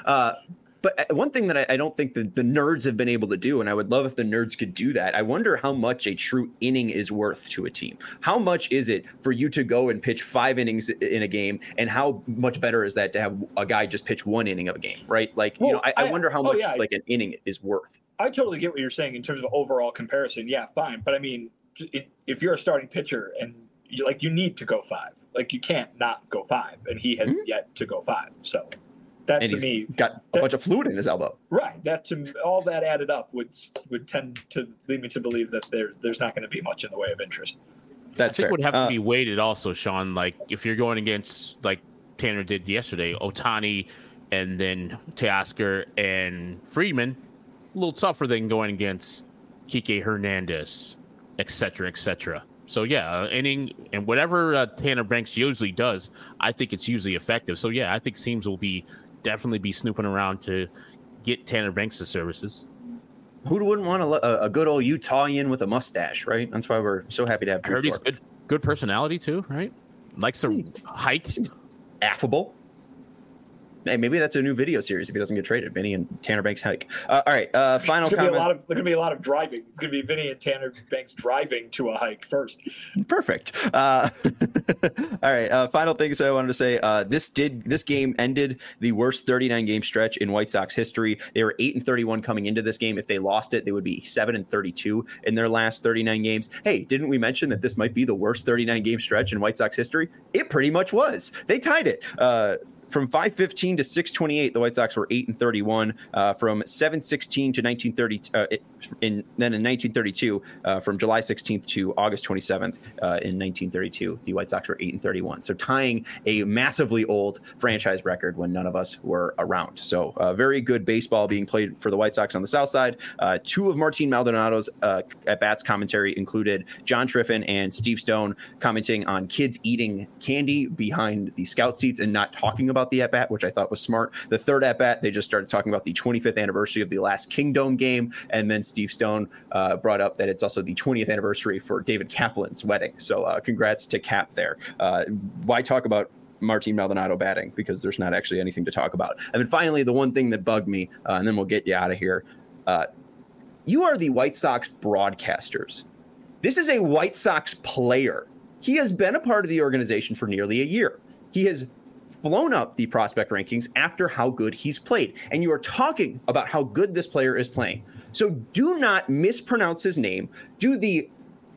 But one thing that I don't think the nerds have been able to do, and I would love if the nerds could do that, I wonder how much a true inning is worth to a team. How much is it for you to go and pitch 5 innings in a game, and how much better is that to have a guy just pitch 1 inning of a game, right? Like, well, I wonder how much like an inning is worth. I totally get what you're saying in terms of overall comparison. Yeah, fine. But I mean, if you're a starting pitcher and you need to go 5, like you can't not go 5, and he has yet to go 5. So that and to me got a bunch of fluid in his elbow. Right. All that added up would tend to lead me to believe that there's not going to be much in the way of interest. That's I think fair. would have to be weighted also, Sean. Like if you're going against like Tanner did yesterday, Ohtani and then Teoscar and Friedman, a little tougher than going against Kike Hernandez, et cetera. So yeah, inning and whatever Tanner Banks usually does, I think it's usually effective. So yeah, I think Seams will definitely be snooping around to get Tanner Banks' services. Who wouldn't want a good old Utahian with a mustache, right? That's why we're so happy to have. I heard he's good personality too, right? Likes to hike. Seems affable. Hey, maybe that's a new video series if he doesn't get traded. Vinny and Tanner Banks hike. All right, final comment. There's going to be a lot of driving. It's going to be Vinny and Tanner Banks driving to a hike first. Perfect. All right, final things I wanted to say. This game ended the worst 39-game stretch in White Sox history. They were 8-31 coming into this game. If they lost it, they would be 7-32 in their last 39 games. Hey, didn't we mention that this might be the worst 39-game stretch in White Sox history? It pretty much was. They tied it. From 5-15 to 6-28, the White Sox were 8-31. From 7-16 to 1930, in 1932, from July 16th to August 27th, in 1932, the White Sox were 8-31. So tying a massively old franchise record when none of us were around. So very good baseball being played for the White Sox on the South Side. 2 of Martin Maldonado's at-bats commentary included John Triffin and Steve Stone commenting on kids eating candy behind the scout seats and not talking about the at-bat, which I thought was smart. The third at-bat, they just started talking about the 25th anniversary of the last Kingdome game, and then Steve Stone brought up that it's also the 20th anniversary for David Kaplan's wedding. So congrats to Cap there. Why talk about Martin Maldonado batting? Because there's not actually anything to talk about. And then finally, the one thing that bugged me, and then we'll get you out of here. You are the White Sox broadcasters. This is a White Sox player. He has been a part of the organization for nearly a year. He has blown up the prospect rankings after how good he's played. And you are talking about how good this player is playing. So do not mispronounce his name. Do the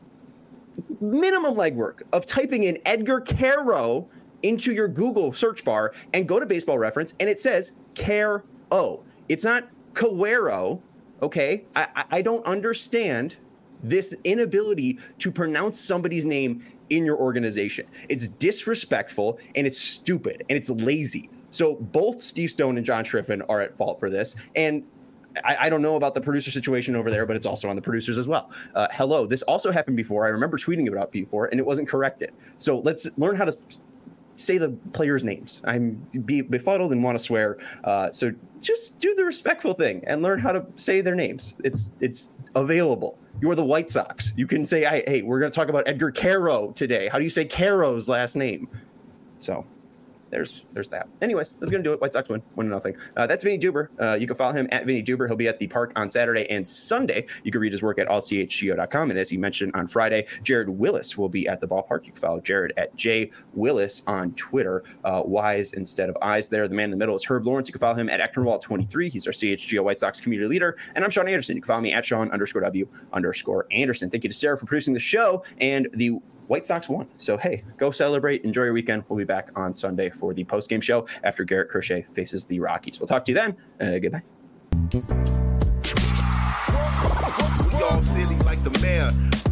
minimum legwork of typing in Edgar Quero into your Google search bar and go to Baseball Reference, and it says Quero. It's not Quero, okay? I don't understand this inability to pronounce somebody's name in your organization. It's disrespectful, and it's stupid, and it's lazy. So both Steve Stone and John Triffin are at fault for this. And I don't know about the producer situation over there, but it's also on the producers as well. Hello, this also happened before. I remember tweeting about it before, and it wasn't corrected. So let's learn how to say the players' names. I'm befuddled and want to swear. So just do the respectful thing and learn how to say their names. It's available. You're the White Sox. You can say, hey, we're going to talk about Edgar Quero today. How do you say Quero's last name? So there's that. Anyways, that's going to do it. White Sox win 1-0. That's Vinny Duber. You can follow him at Vinny Duber. He'll be at the park on Saturday and Sunday. You can read his work at allchgo.com. And as he mentioned on Friday, Jared Willis will be at the ballpark. You can follow Jared at J Willis on Twitter. Y's instead of I's there. The man in the middle is Herb Lawrence. You can follow him at Eckernwall23. He's our CHGO White Sox community leader. And I'm Sean Anderson. You can follow me at Sean_W_Anderson. Thank you to Sarah for producing the show. And the White Sox won. So, hey, go celebrate. Enjoy your weekend. We'll be back on Sunday for the postgame show after Garrett Crochet faces the Rockies. We'll talk to you then. Goodbye. We all silly like the mayor.